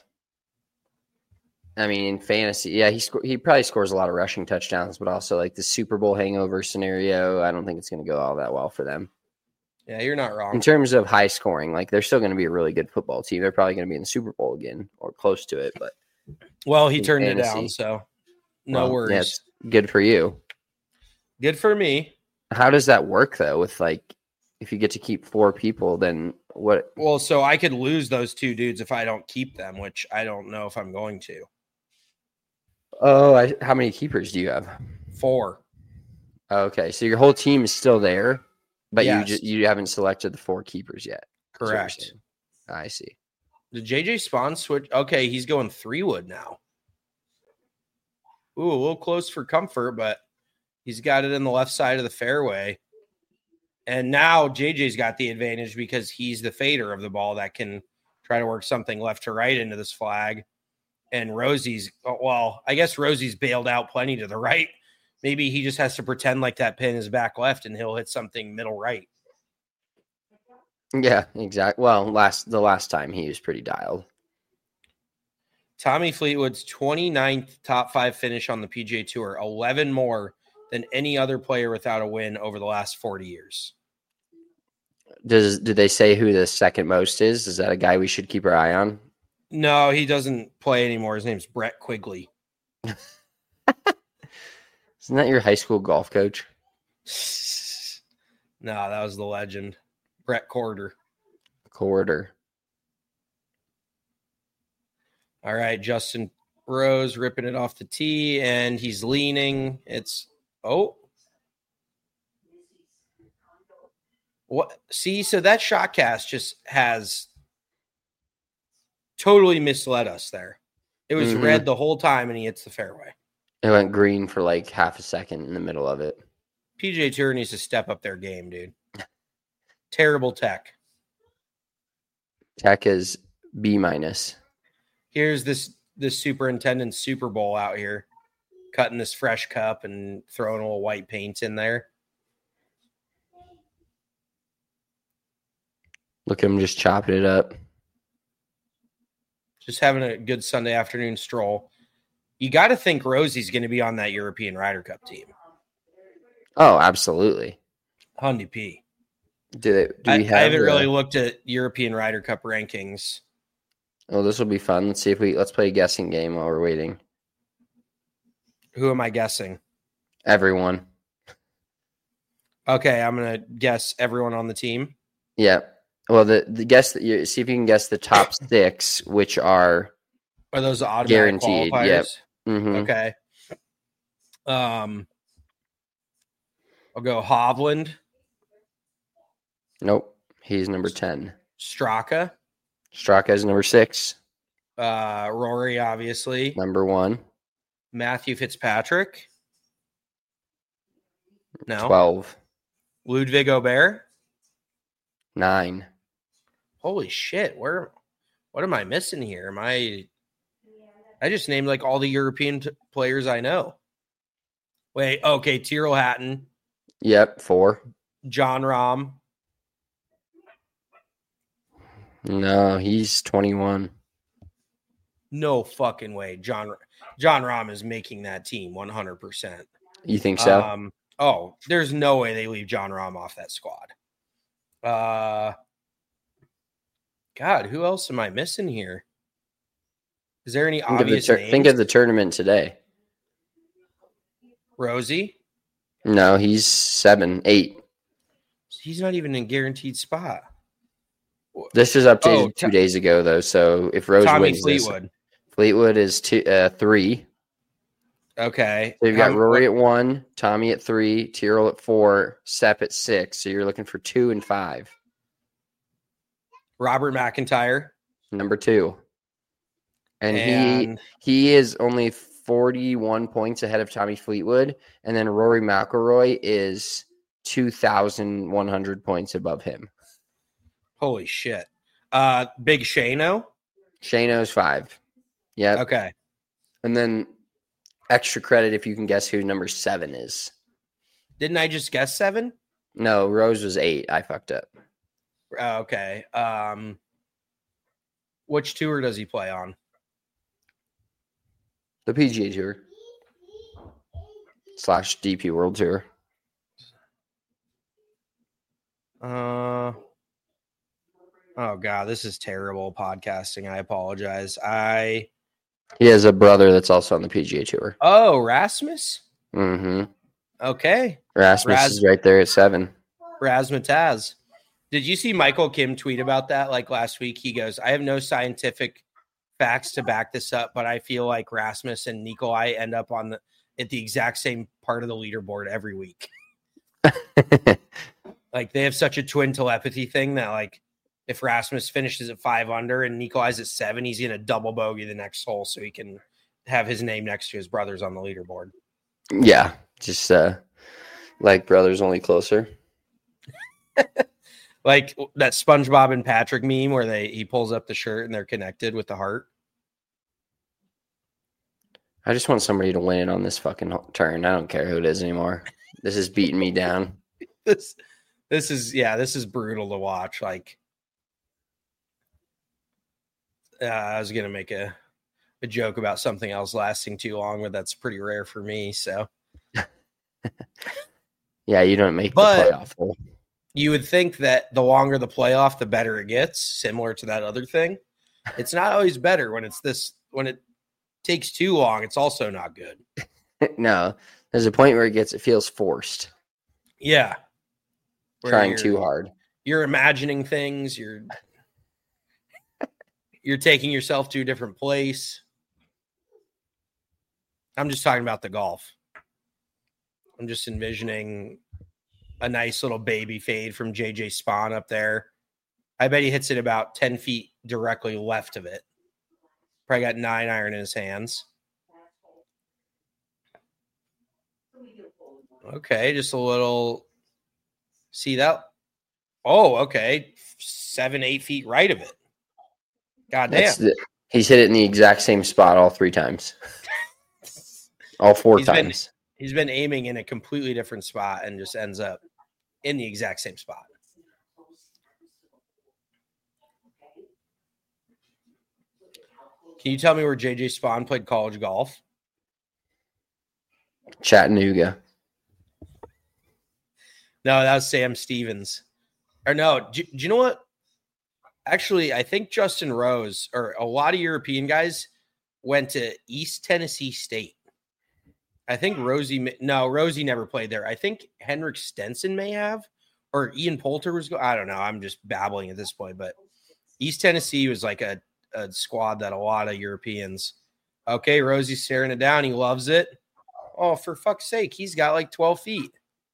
Speaker 5: I mean, in fantasy, yeah, he probably scores a lot of rushing touchdowns, but also like the Super Bowl hangover scenario, I don't think it's going to go all that well for them.
Speaker 7: Yeah, you're not wrong.
Speaker 5: In terms of high scoring, like they're still going to be a really good football team. They're probably going to be in the Super Bowl again or close to it. But
Speaker 7: well, he turned it down, so no worries.
Speaker 5: Yeah, it's good for you.
Speaker 7: Good for me.
Speaker 5: How does that work though? With like, if you get to keep 4 people, then what?
Speaker 7: Well, so I could lose those 2 dudes if I don't keep them, which I don't know if I'm going to.
Speaker 5: Oh, how many keepers do you have?
Speaker 7: 4.
Speaker 5: Okay, so your whole team is still there, but
Speaker 7: Yes.
Speaker 5: you haven't selected the 4 keepers yet. That's what you're
Speaker 7: Correct.
Speaker 5: saying. I see.
Speaker 7: Did JJ Spawn switch? Okay, he's going 3-wood now. Ooh, a little close for comfort, but he's got it in the left side of the fairway. And now JJ's got the advantage because he's the fader of the ball that can try to work something left to right into this flag. And Rosie's, well, I guess Rosie's bailed out plenty to the right. Maybe he just has to pretend like that pin is back left and he'll hit something middle right.
Speaker 5: Yeah, exactly. Well, the last time he was pretty dialed.
Speaker 7: Tommy Fleetwood's 29th top 5 finish on the PGA Tour, 11 more than any other player without a win over the last 40 years.
Speaker 5: Did they say who the second most is? Is that a guy we should keep our eye on?
Speaker 7: No, he doesn't play anymore. His name's Brett Quigley.
Speaker 5: Isn't that your high school golf coach?
Speaker 7: No, that was the legend. Brett Corder.
Speaker 5: Corder.
Speaker 7: All right, Justin Rose ripping it off the tee, and he's leaning. It's what? See, so that shot cast just has totally misled us there. It was red the whole time, and he hits the fairway.
Speaker 5: It went green for like half a second in the middle of it.
Speaker 7: PGA Tour needs to step up their game, dude. Terrible tech.
Speaker 5: Tech is B-.
Speaker 7: Here's this superintendent's Super Bowl out here, cutting this fresh cup and throwing a little white paint in there.
Speaker 5: Look at him just chopping it up.
Speaker 7: Just having a good Sunday afternoon stroll. You got to think Rosie's going to be on that European Ryder Cup team.
Speaker 5: Oh, absolutely.
Speaker 7: Hundy P.
Speaker 5: Do we have?
Speaker 7: I haven't really looked at European Ryder Cup rankings.
Speaker 5: Oh, this will be fun. Let's play a guessing game while we're waiting.
Speaker 7: Who am I guessing?
Speaker 5: Everyone.
Speaker 7: Okay, I'm going to guess everyone on the team.
Speaker 5: Yeah. Well, the guess that you see if you can guess the top 6, which are
Speaker 7: those automatic
Speaker 5: guaranteed.
Speaker 7: qualifiers?
Speaker 5: Yep. Mm-hmm.
Speaker 7: Okay. I'll go Hovland.
Speaker 5: Nope. He's number 10.
Speaker 7: Straka.
Speaker 5: Straka is number 6.
Speaker 7: Rory, obviously.
Speaker 5: Number 1.
Speaker 7: Matthew Fitzpatrick. No.
Speaker 5: 12.
Speaker 7: Ludwig Aubert.
Speaker 5: 9.
Speaker 7: Holy shit. What am I missing here? I just named like all the European players I know. Wait, okay. Tyrrell Hatton.
Speaker 5: Yep. 4.
Speaker 7: John Rahm.
Speaker 5: No, he's 21.
Speaker 7: No fucking way. John Rahm is making that team 100%.
Speaker 5: You think so?
Speaker 7: There's no way they leave John Rahm off that squad. God, who else am I missing here? Is there any obvious names?
Speaker 5: Think of the tournament today.
Speaker 7: Rosie?
Speaker 5: No, he's 7, 8.
Speaker 7: He's not even in a guaranteed spot.
Speaker 5: This is updated 2 days ago, though. So if Rose wins
Speaker 7: Fleetwood.
Speaker 5: Fleetwood is 3.
Speaker 7: Okay.
Speaker 5: So you've got Rory at 1, Tommy at 3, Tyrrell at 4, Sepp at 6. So you're looking for 2 and 5.
Speaker 7: Robert McIntyre.
Speaker 5: Number 2. And he is only 41 points ahead of Tommy Fleetwood. And then Rory McIlroy is 2,100 points above him.
Speaker 7: Holy shit. Big Shano?
Speaker 5: Shano's 5. Yeah.
Speaker 7: Okay.
Speaker 5: And then extra credit if you can guess who number 7 is.
Speaker 7: Didn't I just guess 7?
Speaker 5: No, Rose was 8. I fucked up.
Speaker 7: Okay. Which tour does he play on?
Speaker 5: The PGA Tour / DP World Tour.
Speaker 7: Oh God, this is terrible podcasting. I apologize.
Speaker 5: He has a brother that's also on the PGA Tour.
Speaker 7: Oh, Rasmus?
Speaker 5: Mm-hmm.
Speaker 7: Okay.
Speaker 5: Rasmus is right there at 7.
Speaker 7: Razzmatazz. Did you see Michael Kim tweet about that like last week? He goes, I have no scientific facts to back this up, but I feel like Rasmus and Nikolai end up at the exact same part of the leaderboard every week. Like they have such a twin telepathy thing that like if Rasmus finishes at 5 under and Nikolai's at 7, he's gonna double bogey the next hole so he can have his name next to his brothers on the leaderboard.
Speaker 6: Yeah, just like brothers, only closer.
Speaker 7: Like that SpongeBob and Patrick meme where he pulls up the shirt and they're connected with the heart.
Speaker 6: I just want somebody to win on this fucking turn. I don't care who it is anymore. This is beating me down.
Speaker 7: This is brutal to watch. Like, I was gonna make a joke about something else lasting too long, but that's pretty rare for me. So,
Speaker 6: yeah, you don't make the playoff hole.
Speaker 7: You would think that the longer the playoff, the better it gets. Similar to that other thing, it's not always better when it takes too long. It's also not good.
Speaker 6: No, there's a point where it feels forced.
Speaker 7: Yeah.
Speaker 6: Trying too hard.
Speaker 7: You're imagining things. You're taking yourself to a different place. I'm just talking about the golf. I'm just envisioning a nice little baby fade from JJ Spawn up there. I bet he hits it about 10 feet directly left of it. Probably got 9 iron in his hands. Okay, just a little. See that? Oh, okay. 7-8 feet right of it. God damn.
Speaker 6: He's hit it in the exact same spot all 3 times. All 4 times.
Speaker 7: He's been aiming in a completely different spot and just ends up in the exact same spot. Can you tell me where JJ Spawn played college golf?
Speaker 6: Chattanooga.
Speaker 7: No, that was Sam Stevens. Or no, do you know what? Actually, I think Justin Rose or a lot of European guys went to East Tennessee State. I think Rosie never played there. I think Henrik Stenson may have, or Ian Poulter was. I don't know. I'm just babbling at this point, but East Tennessee was like a squad that a lot of Europeans. Okay, Rosie's staring it down. He loves it. Oh, for fuck's sake, he's got like 12 feet.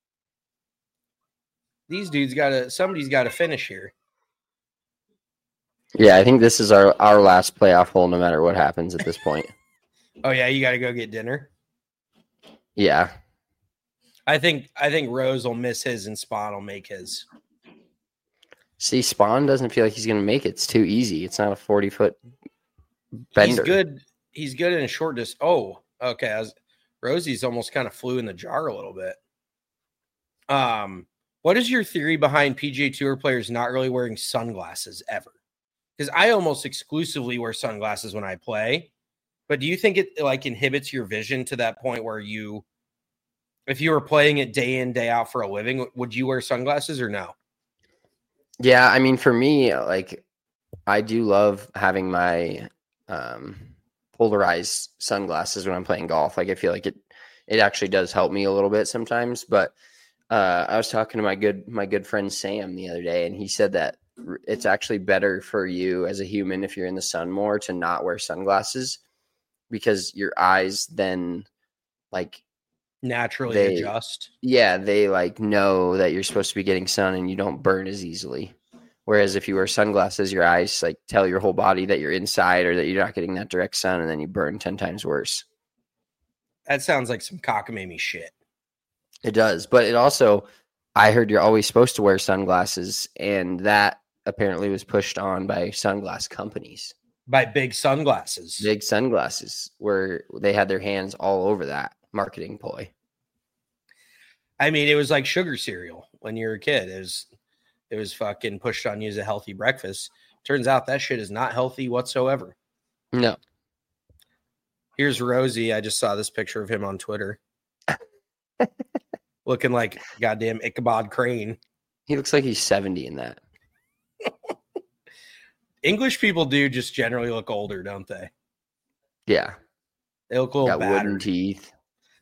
Speaker 7: These dudes somebody's got to finish here.
Speaker 6: Yeah, I think this is our last playoff hole no matter what happens at this point.
Speaker 7: Oh, yeah, you got to go get dinner?
Speaker 6: Yeah.
Speaker 7: I think Rose will miss his and Spawn will make his.
Speaker 6: See, Spawn doesn't feel like he's going to make it. It's too easy. It's not a 40-foot bender.
Speaker 7: He's good in a short distance. Oh, okay. Rosie's almost kind of flew in the jar a little bit. What is your theory behind PGA Tour players not really wearing sunglasses ever? Because I almost exclusively wear sunglasses when I play. But do you think it like inhibits your vision to that point where if you were playing it day in, day out for a living, would you wear sunglasses or no?
Speaker 6: Yeah, I mean, for me, like, I do love having my polarized sunglasses when I'm playing golf. Like, I feel like it actually does help me a little bit sometimes. But I was talking to my good friend Sam the other day, and he said that it's actually better for you as a human if you're in the sun more to not wear sunglasses because your eyes then like
Speaker 7: naturally adjust.
Speaker 6: Yeah, they like know that you're supposed to be getting sun and you don't burn as easily. Whereas if you wear sunglasses, your eyes like tell your whole body that you're inside or that you're not getting that direct sun, and then you burn 10 times worse.
Speaker 7: That sounds like some cockamamie shit.
Speaker 6: It does, but it also, I heard you're always supposed to wear sunglasses, and that apparently was pushed on by sunglass companies.
Speaker 7: By big sunglasses.
Speaker 6: Big sunglasses, where they had their hands all over that marketing ploy.
Speaker 7: I mean, it was like sugar cereal when you were a kid. It was fucking pushed on you as a healthy breakfast. Turns out that shit is not healthy whatsoever.
Speaker 6: No.
Speaker 7: Here's Rosie. I just saw this picture of him on Twitter. Looking like goddamn Ichabod Crane.
Speaker 6: He looks like he's 70 in that.
Speaker 7: English people do just generally look older, don't they?
Speaker 6: Yeah.
Speaker 7: They look a little
Speaker 6: got
Speaker 7: battered.
Speaker 6: wooden teeth.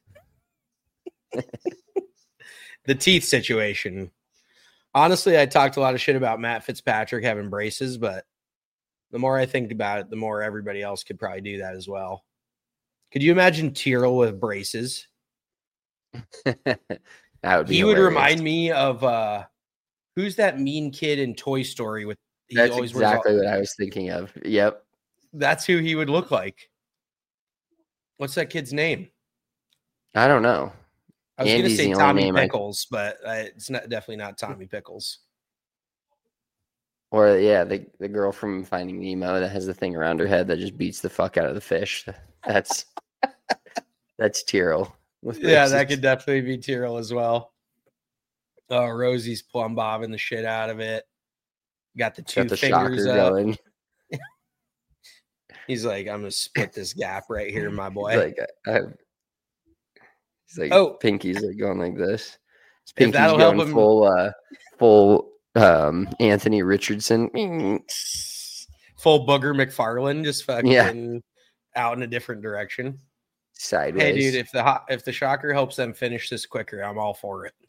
Speaker 7: The teeth situation. Honestly, I talked a lot of shit about Matt Fitzpatrick having braces, but The more I think about it, the more everybody else could probably do that as well. Could you imagine Tyrrell with braces?
Speaker 5: That would be
Speaker 7: He would
Speaker 5: hilarious.
Speaker 7: remind me of who's that mean kid in Toy Story with
Speaker 5: That's exactly what I was thinking of. Yep.
Speaker 7: That's who he would look like. What's that kid's name?
Speaker 5: I don't know.
Speaker 7: I was going to
Speaker 5: Andy's
Speaker 7: say
Speaker 5: the only
Speaker 7: Tommy
Speaker 5: name
Speaker 7: Pickles, but it's definitely not Tommy Pickles.
Speaker 5: Or the girl from Finding Nemo that has the thing around her head that just beats the fuck out of the fish. That's Tyrrell.
Speaker 7: Yeah, that could definitely be Tyrrell as well. Oh, Rosie's plumb bobbing the shit out of it. Got the fingers up.
Speaker 5: Going.
Speaker 7: He's like, I'm gonna split this gap right here, my boy.
Speaker 5: He's like, Pinky's like going like this. Pinky's
Speaker 7: that'll
Speaker 5: going
Speaker 7: help him.
Speaker 5: full Anthony Richardson.
Speaker 7: Full Booger McFarlane, just fucking out in a different direction.
Speaker 5: Sideways.
Speaker 7: Hey, dude, if the shocker helps them finish this quicker, I'm all for it.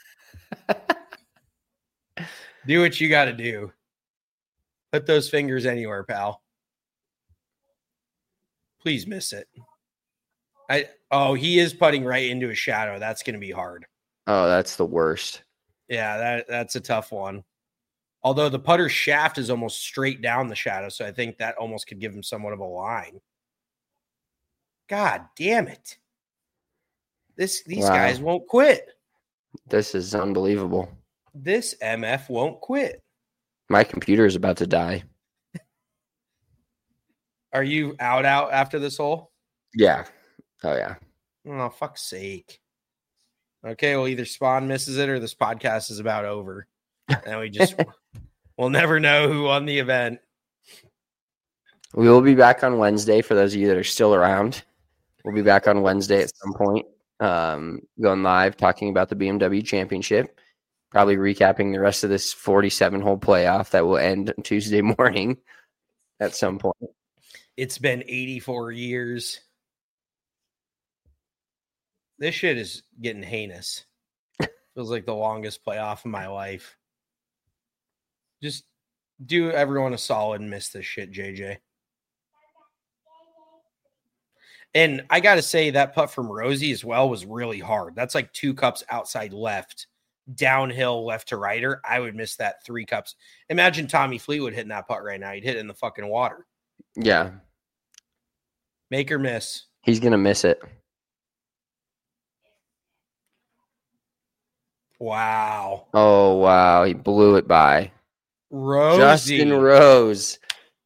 Speaker 7: Do what you got to do. Put those fingers anywhere, pal. Please miss it. He is putting right into a shadow. That's going to be hard.
Speaker 5: Oh, that's the worst.
Speaker 7: Yeah, that's a tough one. Although the putter shaft is almost straight down the shadow, so I think that almost could give him somewhat of a line. God damn it. These guys won't quit.
Speaker 5: This is unbelievable.
Speaker 7: This MF won't quit.
Speaker 5: My computer is about to die.
Speaker 7: Are you out after this hole?
Speaker 5: Yeah. Oh, yeah.
Speaker 7: Oh, fuck's sake. Okay, well, either Spawn misses it or this podcast is about over. And we'll never know who won the event.
Speaker 5: We will be back on Wednesday for those of you that are still around. We'll be back on Wednesday at some point, going live, talking about the BMW Championship, probably recapping the rest of this 47-hole playoff that will end Tuesday morning at some point.
Speaker 7: It's been 84 years. This shit is getting heinous. Feels like the longest playoff of my life. Just do everyone a solid and miss this shit, JJ. And I got to say that putt from Rosie as well was really hard. That's like 2 cups outside left, downhill left to righter. I would miss that 3 cups. Imagine Tommy Fleetwood hitting that putt right now. He'd hit it in the fucking water.
Speaker 5: Yeah.
Speaker 7: Make or miss.
Speaker 5: He's going to miss it.
Speaker 7: Wow.
Speaker 5: Oh, wow. He blew it by.
Speaker 7: Rosie.
Speaker 5: Justin Rose.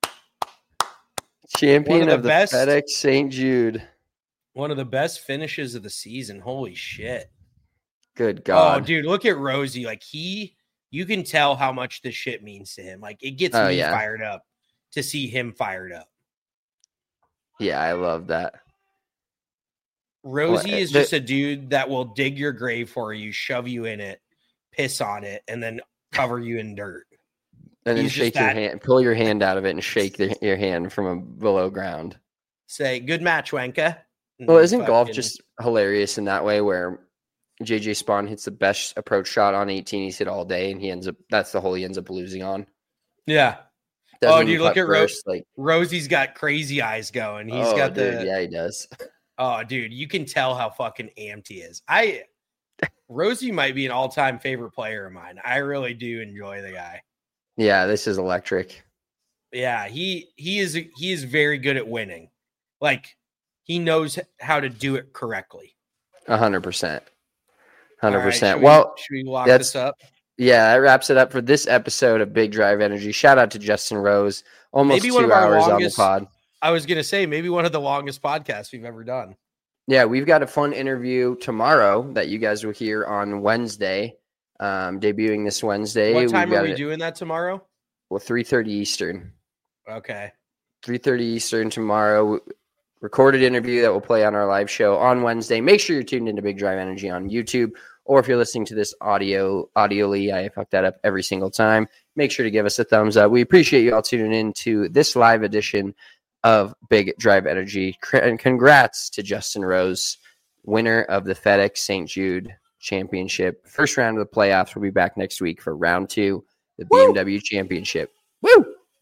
Speaker 5: Champion of the
Speaker 7: best,
Speaker 5: FedEx St. Jude.
Speaker 7: One of the best finishes of the season. Holy shit.
Speaker 5: Good God.
Speaker 7: Oh, dude, look at Rosie. Like you can tell how much this shit means to him. Like it gets me fired up to see him fired up.
Speaker 5: Yeah, I love that.
Speaker 7: Rosie is just a dude that will dig your grave for you, shove you in it, piss on it, and then cover you in dirt.
Speaker 5: And then shake your hand, pull your hand out of it and shake your hand from below ground.
Speaker 7: Say, good match, Wenka.
Speaker 5: Well, isn't golf just hilarious in that way where JJ Spawn hits the best approach shot on 18 he's hit all day, and that's the hole he ends up losing on.
Speaker 7: Yeah.
Speaker 5: Doesn't
Speaker 7: dude, look at
Speaker 5: Rose. Like
Speaker 7: Rosie's got crazy eyes going. He's got
Speaker 5: he does.
Speaker 7: Oh, dude, you can tell how fucking amped he is. Rosie might be an all-time favorite player of mine. I really do enjoy the guy.
Speaker 5: Yeah, this is electric.
Speaker 7: Yeah, he is very good at winning. Like he knows how to do it correctly.
Speaker 5: 100%.
Speaker 7: 100%.
Speaker 5: Well,
Speaker 7: should we lock this up?
Speaker 5: Yeah, that wraps it up for this episode of Big Drive Energy. Shout out to Justin Rose. Almost maybe 2 hours on the pod.
Speaker 7: I was going to say maybe one of the longest podcasts we've ever done.
Speaker 5: Yeah, we've got a fun interview tomorrow that you guys will hear on Wednesday, debuting this Wednesday.
Speaker 7: What time are we doing that tomorrow?
Speaker 5: Well, 3:30 Eastern.
Speaker 7: Okay.
Speaker 5: 3:30 Eastern tomorrow. Recorded interview that will play on our live show on Wednesday. Make sure you're tuned into Big Drive Energy on YouTube, or if you're listening to this audioly, I fuck that up every single time. Make sure to give us a thumbs up. We appreciate you all tuning in to this live edition of Big Drive Energy. And congrats to Justin Rose, winner of the FedEx St. Jude Championship. First round of the playoffs. We'll be back next week for round 2, the BMW Championship. Woo!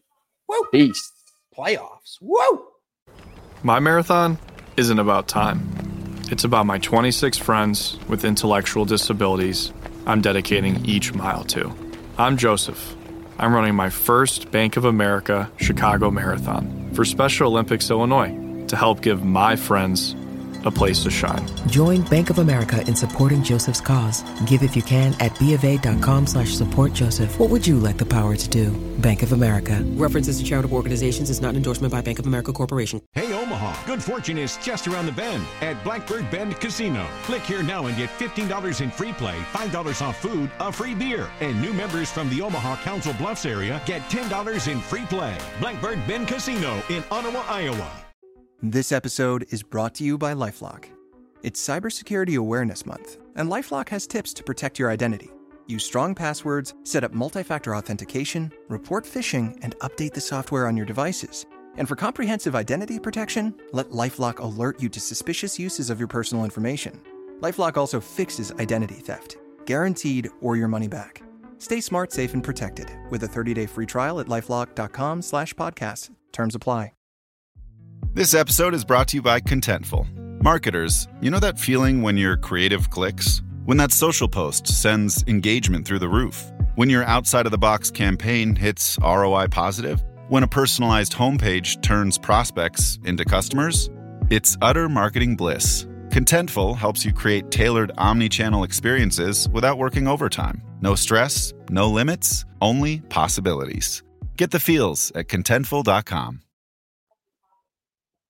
Speaker 7: Woo!
Speaker 5: Peace.
Speaker 7: Playoffs. Woo!
Speaker 8: My marathon isn't about time. It's about my 26 friends with intellectual disabilities I'm dedicating each mile to. I'm Joseph. I'm running my first Bank of America Chicago Marathon for Special Olympics Illinois to help give my friends a place to shine.
Speaker 9: Join Bank of America in supporting Joseph's cause. Give if you can at BofA.com/supportjoseph. What would you like the power to do? Bank of America. References to charitable organizations is not an endorsement by Bank of America Corporation.
Speaker 10: Hey, Omaha, good fortune is just around the bend at Blackbird Bend Casino. Click here now and get $15 in free play, $5 off food, a free beer. And new members from the Omaha Council Bluffs area get $10 in free play. Blackbird Bend Casino in Ottawa, Iowa.
Speaker 11: This episode is brought to you by LifeLock. It's Cybersecurity Awareness Month, and LifeLock has tips to protect your identity. Use strong passwords, set up multi-factor authentication, report phishing, and update the software on your devices. And for comprehensive identity protection, let LifeLock alert you to suspicious uses of your personal information. LifeLock also fixes identity theft, guaranteed or your money back. Stay smart, safe, and protected with a 30-day free trial at LifeLock.com/podcast. Terms apply.
Speaker 12: This episode is brought to you by Contentful. Marketers, you know that feeling when your creative clicks? When that social post sends engagement through the roof? When your outside-of-the-box campaign hits ROI positive? When a personalized homepage turns prospects into customers? It's utter marketing bliss. Contentful helps you create tailored omni-channel experiences without working overtime. No stress, no limits, only possibilities. Get the feels at Contentful.com.